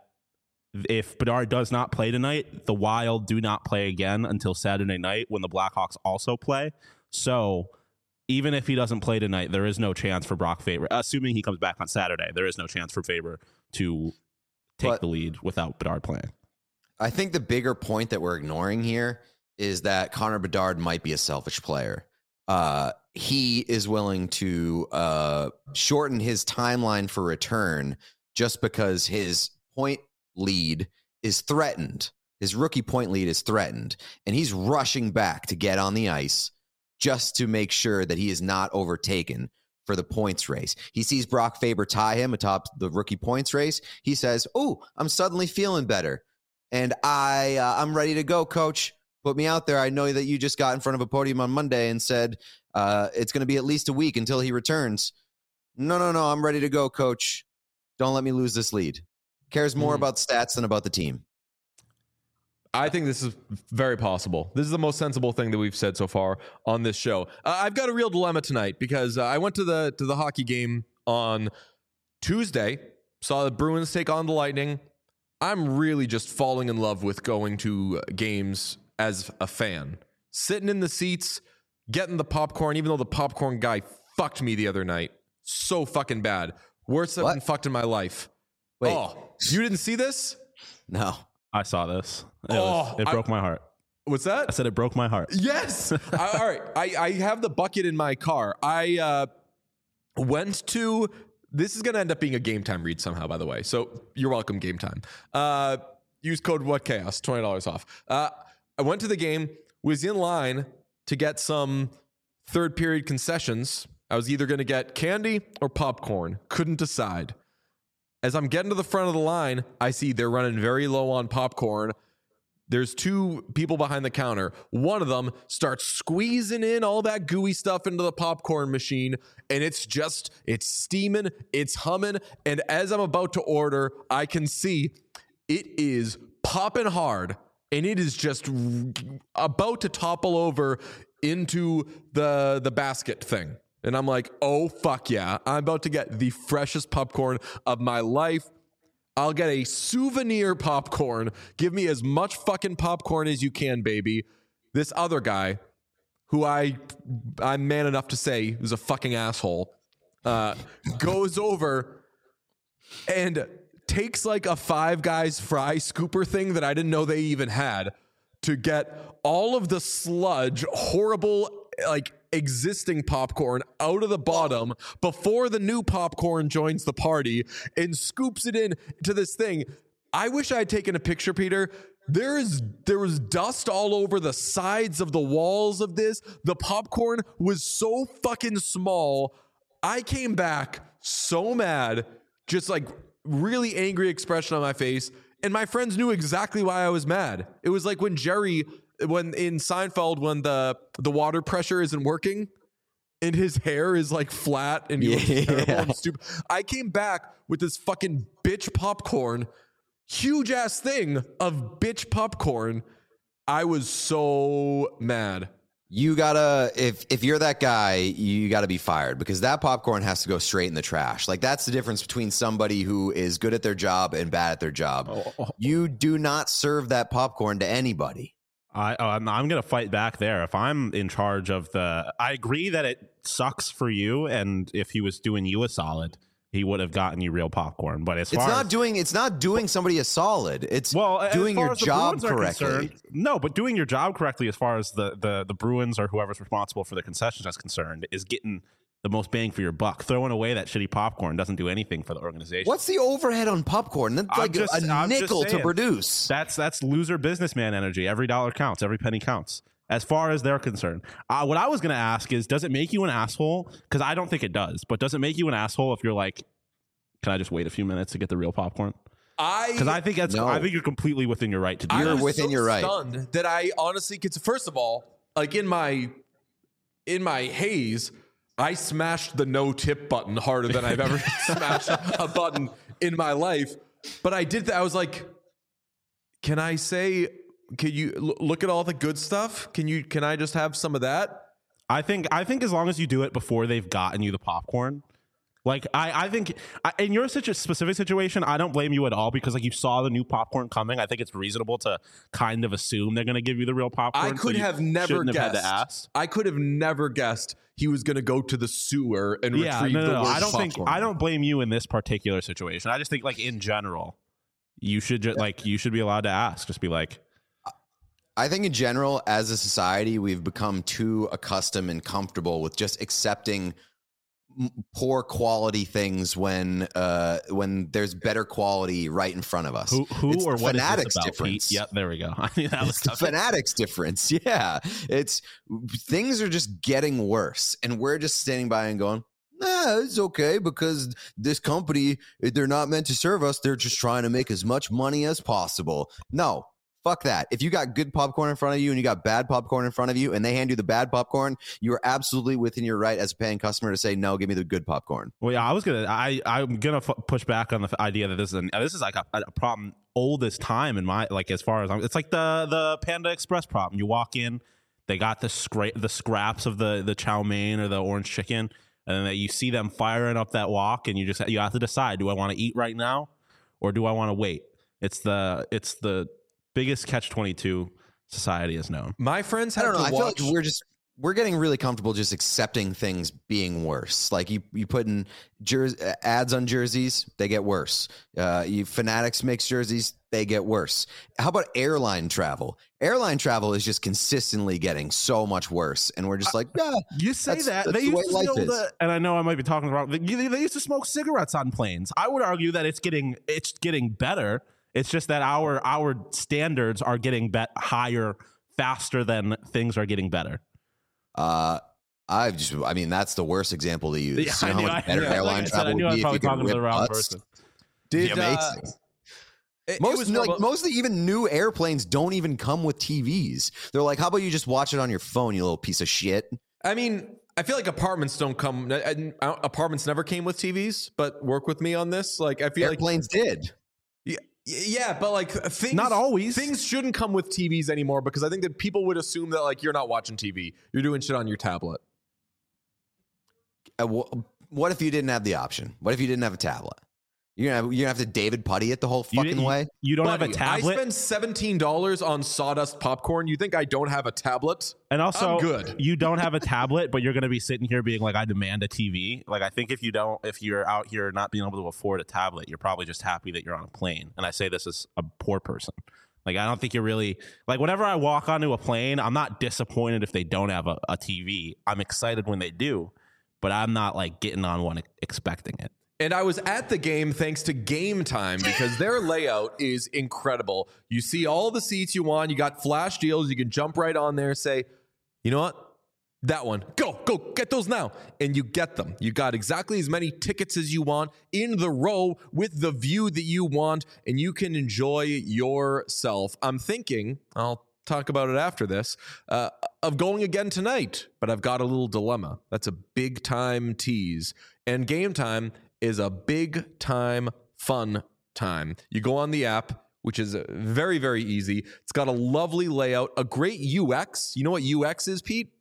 if Bedard does not play tonight, the Wild do not play again until Saturday night when the Blackhawks also play. So even if he doesn't play tonight, there is no chance for Brock Faber. Assuming he comes back on Saturday, there is no chance for Faber to take But- the lead without Bedard playing. I think the bigger point that we're ignoring here is that Connor Bedard might be a selfish player. Uh, he is willing to uh, shorten his timeline for return just because his point lead is threatened. His rookie point lead is threatened, and he's rushing back to get on the ice just to make sure that he is not overtaken for the points race. He sees Brock Faber tie him atop the rookie points race. He says, "Oh, I'm suddenly feeling better, and I uh, I'm ready to go, coach. Put me out there. I know that you just got in front of a podium on Monday and said uh, it's going to be at least a week until he returns. No, no, no. I'm ready to go, coach. Don't let me lose this lead." Cares more Mm. about stats than about the team. I think this is very possible. This is the most sensible thing that we've said so far on this show. Uh, I've got a real dilemma tonight because uh, I went to the to the hockey game on Tuesday, saw the Bruins take on the Lightning. I'm really just falling in love with going to games as a fan. Sitting in the seats, getting the popcorn, even though the popcorn guy fucked me the other night. So fucking bad. Worst I've been fucked in my life. Wait. Oh, you didn't see this? No. I saw this. It, Oh, was, it broke I- my heart. What's that? I said it broke my heart. Yes. I, all right. I, I have the bucket in my car. I uh, went to. This is going to end up being a Game Time read somehow, by the way. So you're welcome, Game Time. Uh, use code WhatChaos, twenty dollars off. Uh, I went to the game, was in line to get some third period concessions. I was either going to get candy or popcorn. Couldn't decide. As I'm getting to the front of the line, I see they're running very low on popcorn. There's two people behind the counter. One of them starts squeezing in all that gooey stuff into the popcorn machine, and it's just, it's steaming, it's humming, and as I'm about to order, I can see it is popping hard, and it is just about to topple over into the, the basket thing. And I'm like, oh, fuck yeah. I'm about to get the freshest popcorn of my life. I'll get a souvenir popcorn. Give me as much fucking popcorn as you can, baby. This other guy, who I, I'm man enough to say is a fucking asshole, uh, goes over and takes like a Five Guys fry scooper thing that I didn't know they even had to get all of the sludge, horrible, like, existing popcorn out of the bottom before the new popcorn joins the party and scoops it in to this thing. I wish I had taken a picture, Peter. There is there was dust all over the sides of the walls of this. The popcorn was so fucking small. I came back so mad, just like really angry expression on my face. And my friends knew exactly why I was mad. It was like when Jerry, when in Seinfeld, when the the water pressure isn't working and his hair is like flat and he looks Yeah. terrible and stupid. I came back with this fucking bitch popcorn, huge ass thing of bitch popcorn. I was so mad. You gotta, if if you're that guy, you gotta be fired because that popcorn has to go straight in the trash. Like that's the difference between somebody who is good at their job and bad at their job. Oh, oh. You do not serve that popcorn to anybody. I, I'm, I'm going to fight back there. If I'm in charge of the, I agree that it sucks for you, and if he was doing you a solid, he would have gotten you real popcorn. But as It's far not as, doing. It's not doing somebody a solid. It's well, as doing far your as the job Bruins are correctly. concerned- No, but doing your job correctly, as far as the the the Bruins or whoever's responsible for the concessions is concerned, is getting the most bang for your buck. Throwing away that shitty popcorn doesn't do anything for the organization. What's the overhead on popcorn? That's I'm like just- a I'm just nickel to saying. produce. That's that's loser businessman energy. Every dollar counts. Every penny counts. As far as they're concerned, uh, what I was going to ask is, does it make you an asshole? Because I don't think it does. But does it make you an asshole if you're like, can I just wait a few minutes to get the real popcorn? I Because I think that's No. I think you're completely within your right to do You're that. I'm within so your right. stunned that I honestly could. First of all, like in my in my haze, I smashed the no tip button harder than I've ever smashed a button in my life. But I did that. I was like, can I say? Can you l- look at all the good stuff? Can you? Can I just have some of that? I think I think as long as you do it before they've gotten you the popcorn. Like I, I think I, in your situ- specific situation, I don't blame you at all because like you saw the new popcorn coming. I think it's reasonable to kind of assume they're going to give you the real popcorn. I so could you have never shouldn't guessed. have had to ask. I could have never guessed he was going to go to the sewer and Yeah, retrieve no, no, the no. worst I don't think popcorn. I don't blame you in this particular situation. I just think like in general, you should just like you should be allowed to ask. Just be like, I think in general, as a society, we've become too accustomed and comfortable with just accepting m- poor quality things when uh, when there's better quality right in front of us. who who It's or the what is fanatics this about, difference. Pete? Yep, there we go. I mean, that was It's the tough. fanatics difference. Yeah. It's things are just getting worse. And we're just standing by and going, nah, it's okay because this company, they're not meant to serve us. They're just trying to make as much money as possible. No, Fuck that. If you got good popcorn in front of you and you got bad popcorn in front of you and they hand you the bad popcorn, you are absolutely within your right as a paying customer to say, no, give me the good popcorn. Well, yeah, I was gonna, I, I'm gonna f- push back on the f- idea that this is an, this is like a, a problem oldest time in my, like as far as I'm, it's like the the Panda Express problem. You walk in, they got the scra- the scraps of the the chow mein or the orange chicken, and then you see them firing up that wok, and you just you have to decide: do I want to eat right now, or do I want to wait? It's the it's the biggest catch twenty-two society has known. My friends I have don't know. to I watch. feel like we're just we're getting really comfortable just accepting things being worse. Like you, you put in jer- ads on jerseys, they get worse. Uh, you Fanatics makes jerseys, they get worse. How about airline travel? Airline travel is just consistently getting so much worse, and we're just like, yeah. You say That's- that that's they the way used to life know is. that, and I know I might be talking wrong. They, they used to smoke cigarettes on planes. I would argue that it's getting it's getting better. It's just that our our standards are getting bet higher faster than things are getting better. Uh, I've just, I mean, that's the worst example to use. Yeah, you know I how knew- much I- better yeah, like airline I said, travel I knew I would was be if probably you could talking to the whip wrong butts? person. Did, It'd be uh, amazing. it- it Most was like about- most of the even new airplanes don't even come with T Vs. They're like, how about you just watch it on your phone, you little piece of shit? I mean, I feel like apartments don't come. I- I- Apartments never came with T Vs, but work with me on this. Like, I feel like Airplanes did. Yeah, yeah, but like things, Not always. Things shouldn't come with T Vs anymore because I think that people would assume that like you're not watching T V, you're doing shit on your tablet. Uh, wh- what if you didn't have the option? What if you didn't have a tablet? You're gonna have, you're gonna have to David Putty it the whole You, fucking you- way. you don't Buddy, have a tablet, I spend seventeen dollars on sawdust popcorn. You think I don't have a tablet? and also I'm good. you don't have a tablet, but you're going to be sitting here being like, "I demand a T V." Like, I think if you don't, if you're out here not being able to afford a tablet, you're probably just happy that you're on a plane. And I say this as a poor person. Like, I don't think you're really like. Whenever I walk onto a plane, I'm not disappointed if they don't have a, a T V. I'm excited when they do, but I'm not like getting on one expecting it. And I was at the game thanks to Game Time because their layout is incredible. You see all the seats you want. You got flash deals. You can jump right on there, say, you know what? That one. Go, go, get those now. And you get them. You got exactly as many tickets as you want in the row with the view that you want, and you can enjoy yourself. I'm thinking, I'll talk about it after this, uh, of going again tonight, but I've got a little dilemma. That's a big time tease. And Game Time is a big time fun time. You go on the app, which is very, very easy. It's got a lovely layout, a great U X. You know what U X is, Pete?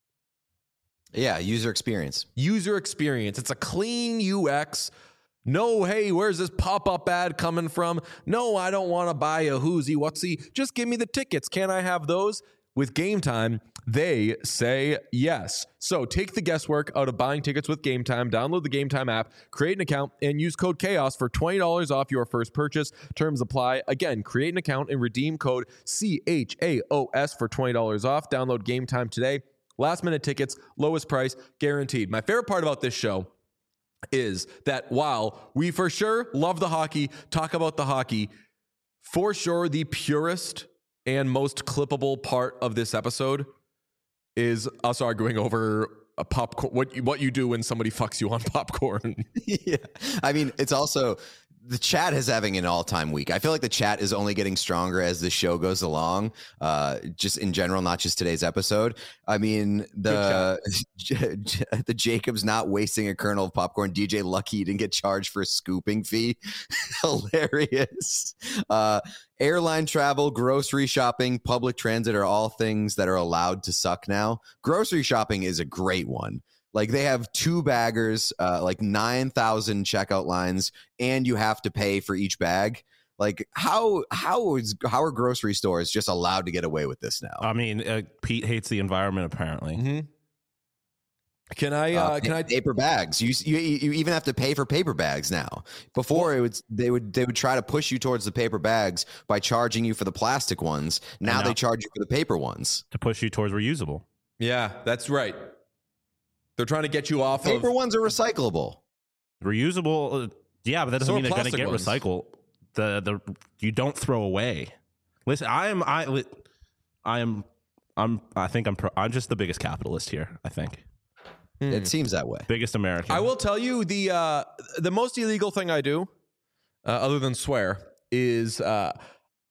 Yeah, user experience. User experience. It's a clean U X. No, hey, where's this pop-up ad coming from? No, I don't want to buy a whoozy whatsy. Just give me the tickets. Can I have those? With Game Time, they say yes. So take the guesswork out of buying tickets with Game Time. Download the Game Time app, create an account, and use code CHAOS for twenty dollars off your first purchase. Terms apply. Again, create an account and redeem code C H A O S for twenty dollars off. Download Game Time today. Last minute tickets, lowest price, guaranteed. My favorite part about this show is that while we for sure love the hockey, talk about the hockey, for sure the purest and most clippable part of this episode is us arguing over a popcorn. What you, what you do when somebody fucks you on popcorn. Yeah. I mean, it's also the chat is having an all-time week. I feel like the chat is only getting stronger as the show goes along, uh, just in general, not just today's episode. I mean, the the Jacob's not wasting a kernel of popcorn. D J Lucky didn't get charged for a scooping fee. Hilarious. Uh, airline travel, grocery shopping, public transit are all things that are allowed to suck now. Grocery shopping is a great one. Like they have two baggers, uh, like nine thousand checkout lines, and you have to pay for each bag. Like how how is how are grocery stores just allowed to get away with this now? I mean, uh, Pete hates the environment apparently. Mm-hmm. Can I? Uh, Uh, can I? paper bags? You, you you even have to pay for paper bags now. Before it would they would they would try to push you towards the paper bags by charging you for the plastic ones. Now now- they charge you for the paper ones. To push you towards reusable. Yeah, that's right. They're trying to get you off Paper of. ones are recyclable. Reusable, uh, yeah, but that doesn't So are mean they're going to plastic get ones. recycled. The the you don't throw away. Listen, I am I li- I am I'm I think I'm pro, I'm just the biggest capitalist here. I think It seems that way. biggest American. I will tell you the uh, the most illegal thing I do, uh, other than swear, is uh,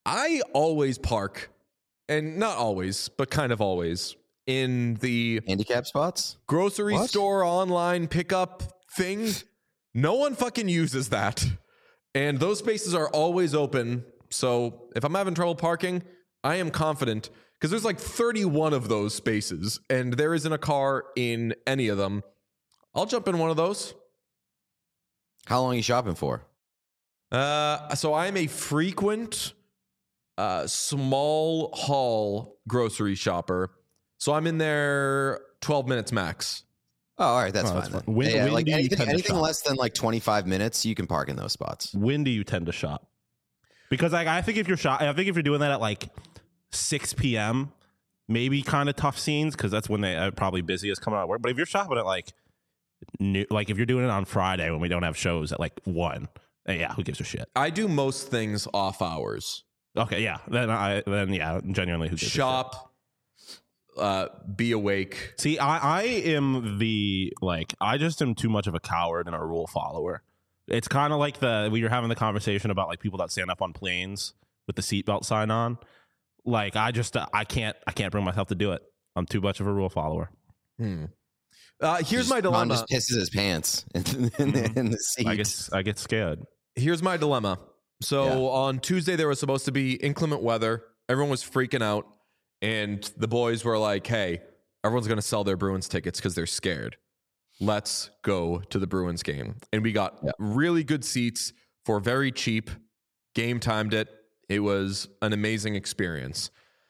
I always park, and not always, but kind of always, in the Handicap spots? grocery What? store online pickup thing. No one fucking uses that. And those spaces are always open. So if I'm having trouble parking, I am confident because there's like thirty-one of those spaces and there isn't a car in any of them. I'll jump in one of those. How long are you shopping for? Uh, so I'm a frequent uh, small haul grocery shopper. So I'm in there twelve minutes max. Oh, all right. That's Oh, fine. that's then. fine. When- yeah, when like do you anything, tend to anything shop? less than like twenty-five minutes, you can park in those spots. When do you tend to shop? Because like I think if you're shop, I think if you're doing that at like six p.m., maybe kind of tough scenes because that's when they are probably busiest coming out of work. But if you're shopping at like new, like if you're doing it on Friday when we don't have shows at like one, eh, yeah, who gives a shit? I do most things off hours. Okay, yeah, then I then yeah, genuinely who gives a shit? Shop, uh, be awake. See, I, I am the like I just am too much of a coward and a rule follower. It's kind of like the we were having the conversation about like people that stand up on planes with the seatbelt sign on. Like I just uh, I can't I can't bring myself to do it. I'm too much of a rule follower. Hmm. Uh, here's Just- my Ron dilemma. just pisses his pants in, in, the, in the seat. I get I get scared. Here's my dilemma. So Yeah. on Tuesday there was supposed to be inclement weather. Everyone was freaking out, and the boys were like, "Hey, everyone's going to sell their Bruins tickets because they're scared. Let's go to the Bruins game." And we got Yeah. really good seats for very cheap. Game timed it. It was an amazing experience.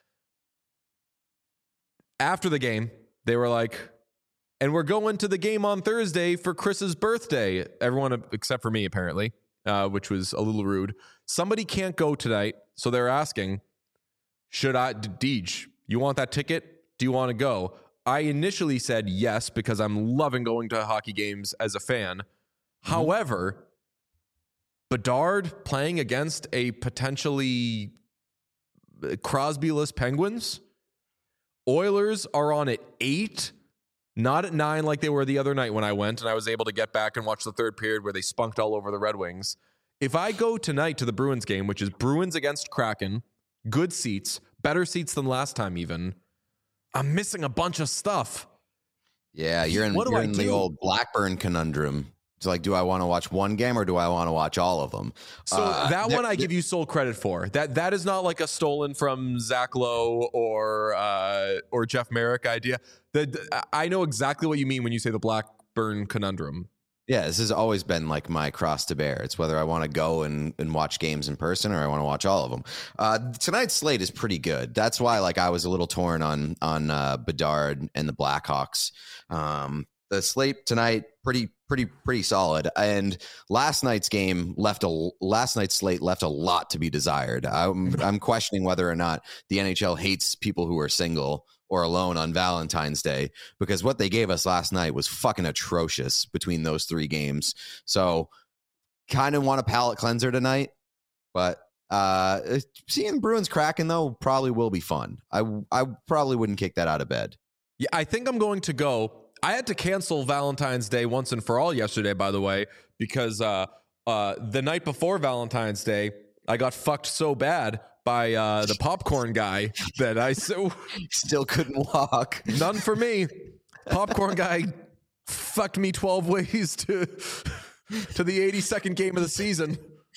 After the game, they were like, "And we're going to the game on Thursday for Chris's birthday." Everyone except for me, apparently, uh, which was a little rude. Somebody can't go tonight, so they're asking, "Should I, Deej, you want that ticket? Do you want to go?" I initially said yes because I'm loving going to hockey games as a fan. However, Bedard playing against a potentially Crosby-less Penguins. Oilers are on at eight, not at nine like they were the other night when I went, and I was able to get back and watch the third period where they spunked all over the Red Wings. If I go tonight to the Bruins game, which is Bruins against Kraken, good seats, better seats than last time even, I'm missing a bunch of stuff. Yeah, you're in, What do you're I in the do? old Blackburn conundrum. It's like, do I want to watch one game or do I want to watch all of them? So Uh, that there- one I give you sole credit for. That that is not like a stolen from Zach Lowe or uh, or Jeff Merrick idea. The, I know exactly what you mean when you say the Blackburn conundrum. Yeah, this has always been like my cross to bear. It's whether I want to go and, and watch games in person or I want to watch all of them. Uh, tonight's slate is pretty good. That's why like I was a little torn on on uh, Bedard and the Blackhawks. Um, the slate tonight pretty pretty pretty solid. And last night's game left a last night's slate left a lot to be desired. I'm I'm questioning whether or not the N H L hates people who are single or alone on Valentine's Day, because what they gave us last night was fucking atrocious between those three games. So kind of want a palate cleanser tonight, but uh, seeing Bruins Kraken though probably will be fun. I, I probably wouldn't kick that out of bed. Yeah, I think I'm going to go. I had to cancel Valentine's Day once and for all yesterday, by the way, because uh, uh, the night before Valentine's Day, I got fucked so bad by uh, the popcorn guy that I so Still couldn't walk. none for me. Popcorn guy fucked me twelve ways to to the eighty-second game of the season.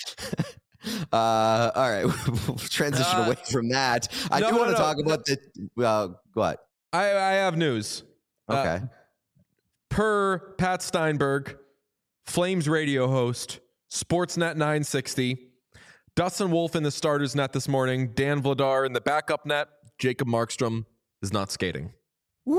Uh, all right, we'll transition Uh, away from that. I no, do no, want to no, talk no. about the uh, what? I, I have news. Uh, Okay. per Pat Steinberg, Flames radio host, Sportsnet nine sixty, Dustin Wolf in the starters net this morning, Dan Vladar in the backup net, Jacob Markstrom is not skating. Woo!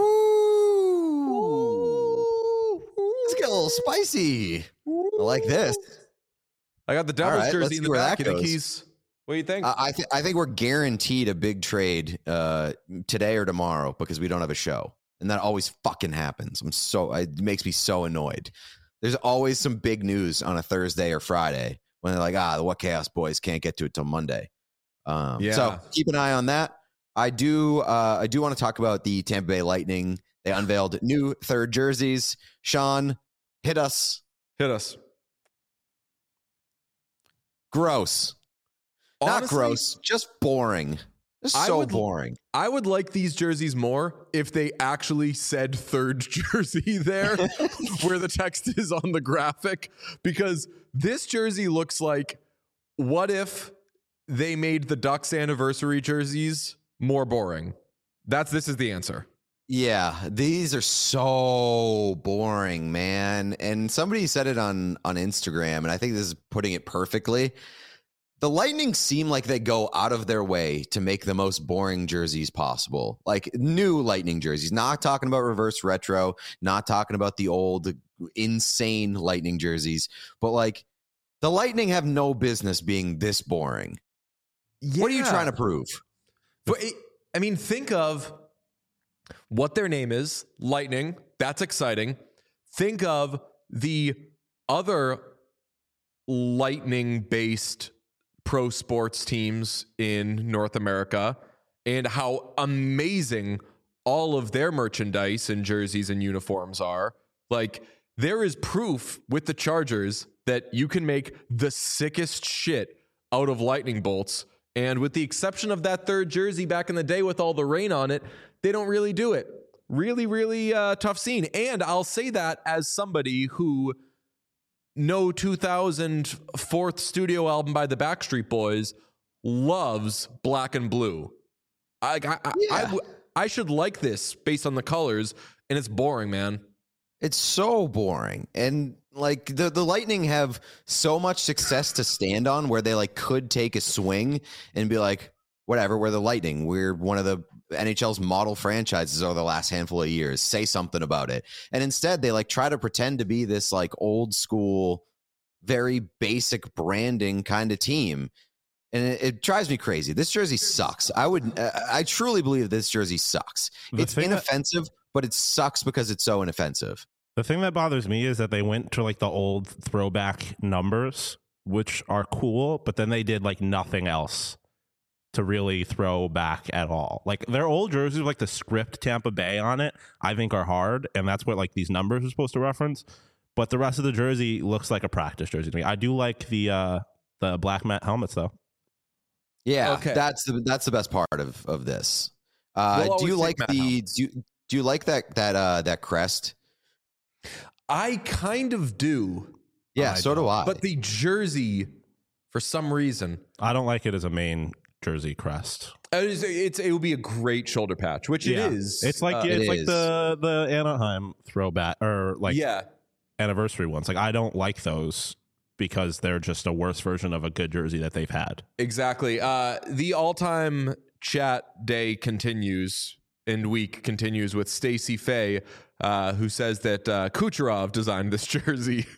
Let's get a little spicy. I like this. I got the Devils All right, let's jersey in see the where back. that You think goes. he's... What do you think? I I, th- I think we're guaranteed a big trade uh, today or tomorrow because we don't have a show, and that always fucking happens. I'm so it makes me so annoyed. There's always some big news on a Thursday or Friday when they're like, ah, the What Chaos Boys can't get to it till Monday. Um, Yeah. So keep an eye on that. I do. Uh, I do want to talk about the Tampa Bay Lightning. They unveiled new third jerseys. Sean, hit us. Hit us. Gross. Not honestly, gross, just boring. Just I so would- boring. I would like these jerseys more if they actually said third jersey there, where the text is on the graphic, because this jersey looks like, what if they made the Ducks anniversary jerseys more boring? That's this is the answer. Yeah, these are so boring, man. And somebody said it on on Instagram, and I think this is putting it perfectly. The Lightning seem like they go out of their way to make the most boring jerseys possible. Like new Lightning jerseys, not talking about reverse retro, not talking about the old insane Lightning jerseys, but like the Lightning have no business being this boring. What are you Yeah. trying to prove? But it, I mean, think of what their name is, Lightning. That's exciting. Think of the other Lightning-based pro sports teams in North America and how amazing all of their merchandise and jerseys and uniforms are. Like, there is proof with the Chargers that you can make the sickest shit out of lightning bolts. And with the exception of that third jersey back in the day with all the rain on it, they don't really do it. Really, really uh, tough scene. And I'll say that as somebody who no two thousand fourth studio album by the Backstreet Boys loves black and blue. I, I, I, Yeah. I, w- I should like this based on the colors, and it's boring, man. It's so boring. And like the, the Lightning have so much success to stand on where they like could take a swing and be like, whatever, we're the Lightning. We're one of the N H L's model franchises over the last handful of years. Say something about it. And instead they like try to pretend to be this like old school, very basic branding kind of team. And it, it drives me crazy. This jersey sucks. I would, uh, I truly believe this jersey sucks. The It's thing that- inoffensive, but it sucks because it's so inoffensive. The thing that bothers me is that they went to like the old throwback numbers, which are cool, but then they did like nothing else to really throw back at all. Like their old jerseys, like the script Tampa Bay on it, I think are hard, and that's what like these numbers are supposed to reference. But the rest of the jersey looks like a practice jersey to me. I do like the uh the black matte helmets though. Yeah, Okay. that's the that's the best part of of this. Uh, We'll do you always like take Matt the do you, do you like that that uh that crest? I kind of do, Yeah, I so do I. but the jersey, for some reason, I don't like it as a main jersey crest. it's, it's it would be a great shoulder patch, which Yeah. it is. It's like Uh, it's It like is. the the Anaheim throwback or like yeah. anniversary ones. Like I don't like those because they're just a worse version of a good jersey that they've had. Exactly. Uh, the all-time chat day continues and week continues with Stacey Fay, uh, who says that uh, Kucherov designed this jersey.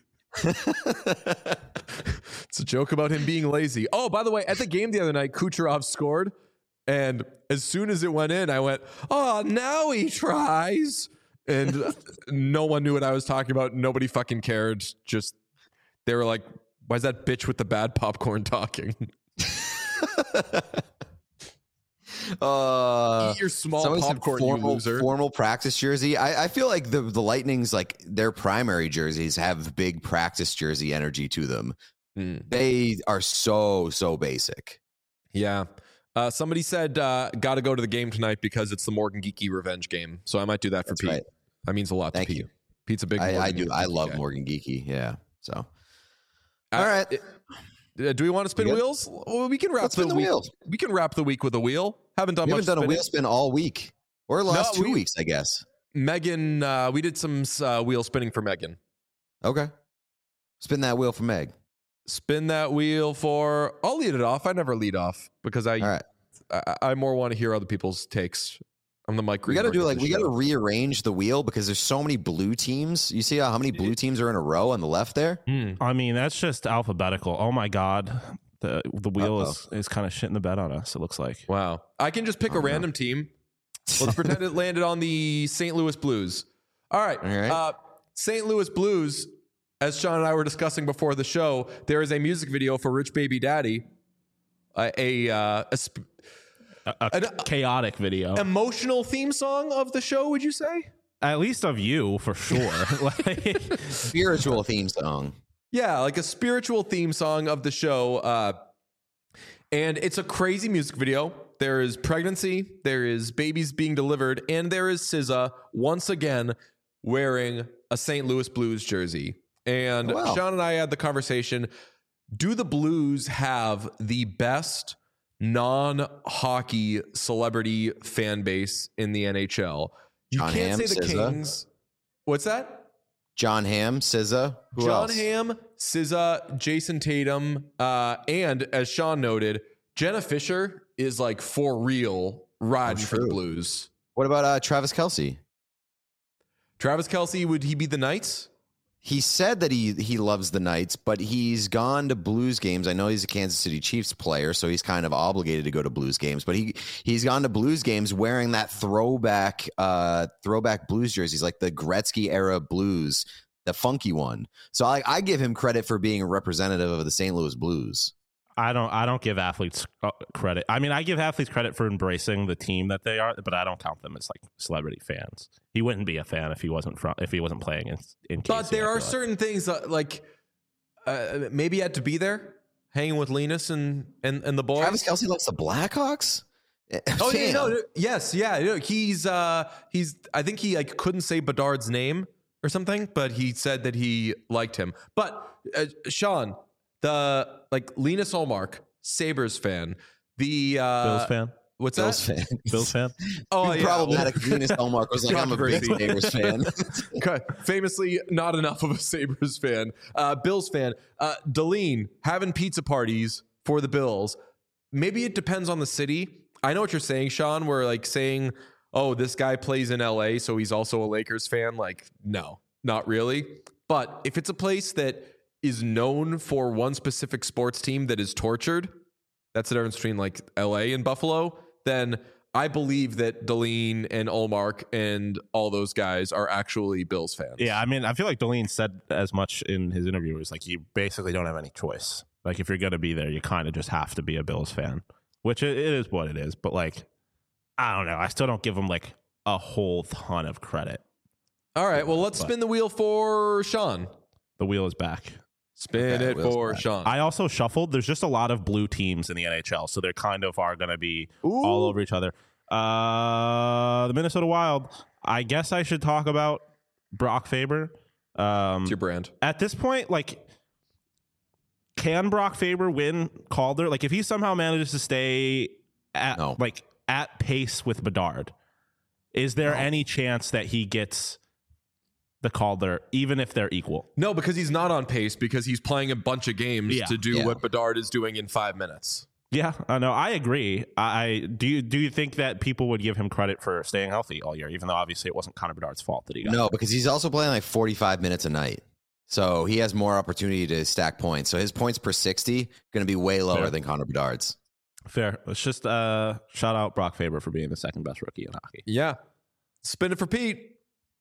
It's a joke about him being lazy. Oh, by the way, at the game the other night, Kucherov scored, and as soon as it went in, I went, "Oh, now he tries." And no one knew what I was talking about. Nobody fucking cared. Just they were like, "Why is that bitch with the bad popcorn talking?" uh, Eat your small somebody said popcorn, you formal, loser. formal practice jersey. I, I feel like the the Lightning's like their primary jerseys have big practice jersey energy to them. Hmm. They are so so basic. Yeah. Uh, somebody said, uh, got to go to the game tonight because it's the Morgan Geeky revenge game. So I might do that for That's Pete. right. That means a lot Thank to Pete. you. Pete's a big I, I Morgan do. I Geeky love guy. Morgan Geeky. Yeah. So Uh, all right. uh, do we want to spin You good? wheels? Well, we can wrap Let's the, spin the week. wheel. We can wrap the week with a wheel. Haven't done we much haven't done a spinning. wheel spin all week or the last No, two we- weeks, I guess. Megan, uh, we did some uh, wheel spinning for Megan. Okay. Spin that wheel for Meg. Spin that wheel for. I'll lead it off. I never lead off because I, All right. I, I more want to hear other people's takes. I'm the Mike. We got to Greenberg do of like the we got to show. rearrange the wheel because there's so many blue teams. You see how, how many blue teams are in a row on the left there? Hmm. I mean, that's just alphabetical. Oh my god. The the wheel Uh-oh. is, is kind of shitting the bed on us, it looks like. Wow. I can just pick Oh, a no. random team. Let's pretend it landed on the Saint Louis Blues. All right. All right. Uh, Saint Louis Blues, as Sean and I were discussing before the show, there is a music video for Rich Baby Daddy, uh, a, uh, a sp- A, a An- chaotic video. emotional theme song of the show, would you say? At least of you, for sure. Like, Spiritual theme song. Yeah, like a spiritual theme song of the show. Uh, And it's a crazy music video. There is pregnancy, there is babies being delivered, and there is S Z A once again wearing a Saint Louis Blues jersey. And Oh, wow. Sean and I had the conversation. Do the Blues have the best non-hockey celebrity fan base in the N H L? You John can't Hamm, say the S Z A. Kings. What's that? John Hamm, S Z A. Who John else? Hamm, S Z A, Jason Tatum, uh, and as Sean noted, Jenna Fisher is like for real riding for the true. Blues. What about uh, Travis Kelce? Travis Kelce, would he be the Knights? He said that he he loves the Knights, but he's gone to Blues games. I know he's a Kansas City Chiefs player, so he's kind of obligated to go to Blues games. But he he's gone to Blues games wearing that throwback uh, throwback Blues jerseys, like the Gretzky era Blues, the funky one. So I, I give him credit for being a representative of the Saint Louis Blues. I don't. I don't give athletes uh, credit. I mean, I give athletes credit for embracing the team that they are, but I don't count them as like celebrity fans. He wouldn't be a fan if he wasn't from if he wasn't playing in. in But K C, there I are feel like. certain things that, like uh, maybe you had to be there, hanging with Linus and and, and the boys. Travis Kelce likes the Blackhawks. Oh yeah, Damn. no, no, yes, yeah. no, He's uh, he's. I think he like couldn't say Bedard's name or something, but he said that he liked him. But uh, Sean, the like Linus Olmark, Sabres fan, the uh, Bills fan. What's Bills that? fan. Bills fan. Oh yeah, Problematic. Venus Elmark was like, I'm a big Controversy. Sabres fan. Okay, famously not enough of a Sabres fan. Uh, Bills fan. Uh, Deline having pizza parties for the Bills. Maybe it depends on the city. I know what you're saying, Sean. We're like saying, oh, this guy plays in L A, so he's also a Lakers fan. Like, no, not really. But if it's a place that is known for one specific sports team that is tortured, that's the difference between like L A and Buffalo, then I believe that Deline and Olmark and all those guys are actually Bills fans. Yeah, I mean, I feel like Deline said as much in his interview. It was like you basically don't have any choice. Like if you're going to be there, you kind of just have to be a Bills fan, which it, it is what it is. But like, I don't know. I still don't give him like a whole ton of credit. All right, well, let's But- spin the wheel for Sean. The wheel is back. Spin Okay, it wheel's for back. Sean. I also shuffled. There's just a lot of blue teams in the N H L, so they kind of are going to be Ooh. all over each other. Uh, the Minnesota Wild. I guess I should talk about Brock Faber. Um, It's your brand. at this point, like, can Brock Faber win Calder? Like, if he somehow manages to stay at No. like at pace with Bedard, is there any chance that he gets the Calder, even if they're equal? No, because he's not on pace because he's playing a bunch of games Yeah. to do Yeah. what Bedard is doing in five minutes. Yeah, I know. I agree. I I- do. You do you think that people would give him credit for staying healthy all year, even though obviously it wasn't Connor Bedard's fault that he got? No, because he's also playing like forty-five minutes a night. So he has more opportunity to stack points. So his points per sixty going to be way lower Fair. than Connor Bedard's. Fair. Let's just uh, shout out Brock Faber for being the second best rookie in hockey. Yeah. Spin it for Pete.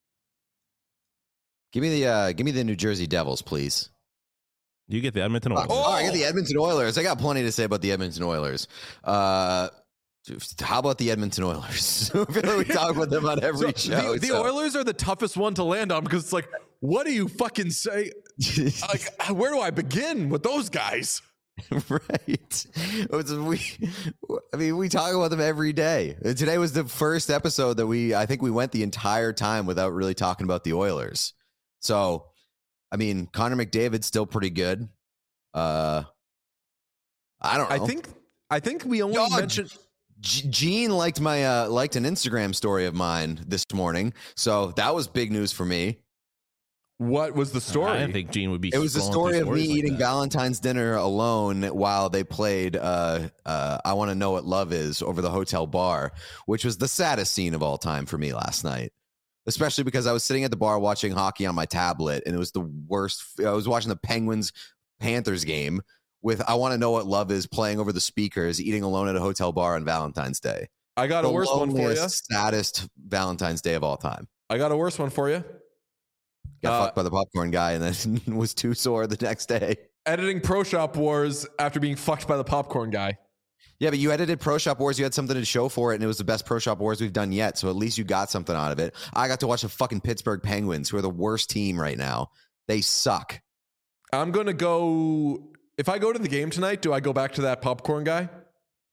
Give me the uh, give me the New Jersey Devils, please. You get the Edmonton Oilers. Oh, I got the Edmonton Oilers. I got plenty to say about the Edmonton Oilers. Uh, how about the Edmonton Oilers? I feel like we talk about them on every So show. the, the so. Oilers are the toughest one to land on because it's like, what do you fucking say? Like, where do I begin with those guys? Right. It's- we, I mean, we talk about them every day. Today was the first episode that we, I think we went the entire time without really talking about the Oilers. So, I mean, Connor McDavid's still pretty good. Uh, I don't know. I think I think we only Yo, mentioned. G- Gene liked my uh, liked an Instagram story of mine this morning, so that was big news for me. What was the story? I didn't think Gene would be. It was the scrolling story through of me stories like eating that. Valentine's dinner alone while they played uh, uh, I Want to Know What Love Is over the hotel bar, which was the saddest scene of all time for me last night. Especially because I was sitting at the bar watching hockey on my tablet, and it was the worst. I was watching the Penguins Panthers game with I Want to Know What Love Is playing over the speakers, eating alone at a hotel bar on Valentine's Day. I got The a worse one for you. loneliest, saddest Valentine's Day of all time. I got a worse one for you. Got Uh, fucked by the popcorn guy and then was too sore the next day. Editing Pro Shop Wars after being fucked by the popcorn guy. Yeah, but you edited Pro Shop Wars. You had something to show for it, and it was the best Pro Shop Wars we've done yet. So at least you got something out of it. I got to watch the fucking Pittsburgh Penguins, who are the worst team right now. They suck. I'm gonna go. If I go to the game tonight, do I go back to that popcorn guy?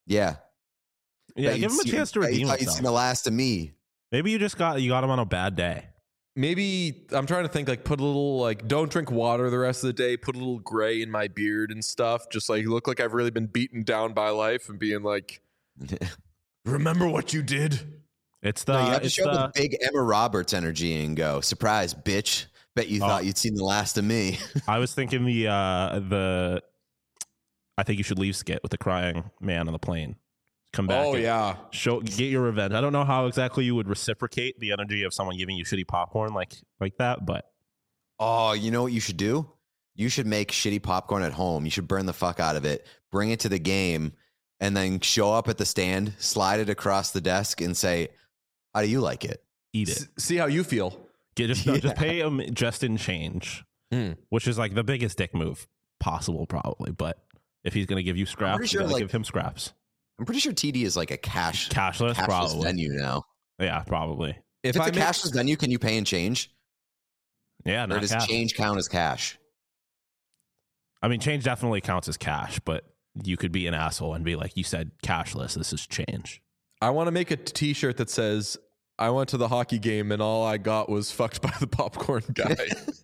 Yeah. Yeah, Bet give him you'd a see- chance to bet you redeem thought you'd himself. seen the last of me. Maybe you just got you got him on a bad day. Maybe I'm trying to think like put a little like don't drink water the rest of the day, put a little gray in my beard and stuff, just like look like I've really been beaten down by life and being like, remember what you did? It's the No, you have to it's show the, up with big Emma Roberts energy and go, surprise, bitch. Bet you Oh. thought you'd seen the last of me. I was thinking the uh the I think you should leave skit with the crying man on the plane. Come back. Oh and yeah. show get your revenge. I don't know how exactly you would reciprocate the energy of someone giving you shitty popcorn like like that, but Oh, you know what you should do? You should make shitty popcorn at home. You should burn the fuck out of it, bring it to the game, and then show up at the stand, slide it across the desk, and say, how do you like it? eat it. S- see how you feel. Get just no, just pay him just in change, Mm. which is like the biggest dick move possible, probably. But if he's gonna give you scraps, pretty you sure, gotta like- give him scraps. I'm pretty sure T D is like a cash Cashless, cashless probably. venue now. Yeah, probably. If, If, I it's a make, cashless venue, can you pay in change? Yeah, Or not does cash. change count as cash? I mean, change definitely counts as cash, but you could be an asshole and be like, "You said cashless. This is change." I want to make a t-shirt that says I went to the hockey game and all I got was fucked by the popcorn guy.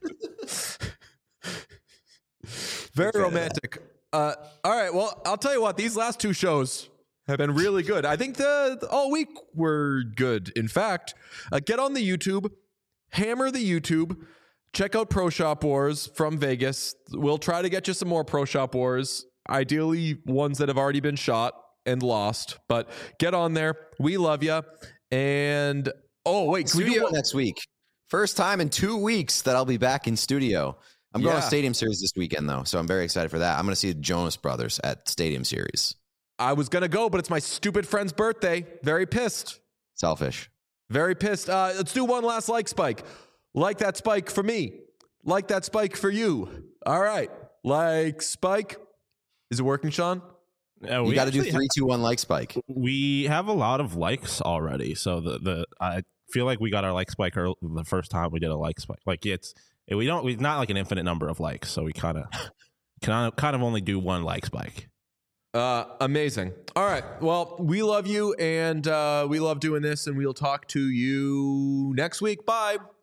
Very romantic. Uh, all right. Well, I'll tell you what, these last two shows have been really good. I think the, the all week were good. In fact, uh, get on the YouTube, hammer the YouTube, check out Pro Shop Wars from Vegas. We'll try to get you some more Pro Shop Wars, ideally ones that have already been shot and lost. But get on there. We love you. And oh wait, can we do Studio one- next week. First time in two weeks that I'll be back in studio. I'm going Yeah. to Stadium Series this weekend, though, so I'm very excited for that. I'm going to see the Jonas Brothers at Stadium Series. I was gonna go, but it's my stupid friend's birthday. Very pissed. Selfish. Very pissed. Uh, let's do one last like spike. Like that spike for me. Like that spike for you. All right. Like spike. Is it working, Sean? Uh, You we got to do actually three, two, one like spike. we have a lot of likes already, so the the I feel like we got our like spike early, the first time we did a like spike. Like it's we don't we've not like an infinite number of likes, so we kind of kind of kind of only do one like spike. Uh, amazing. All right. Well, we love you and uh, we love doing this, and we'll talk to you next week. Bye.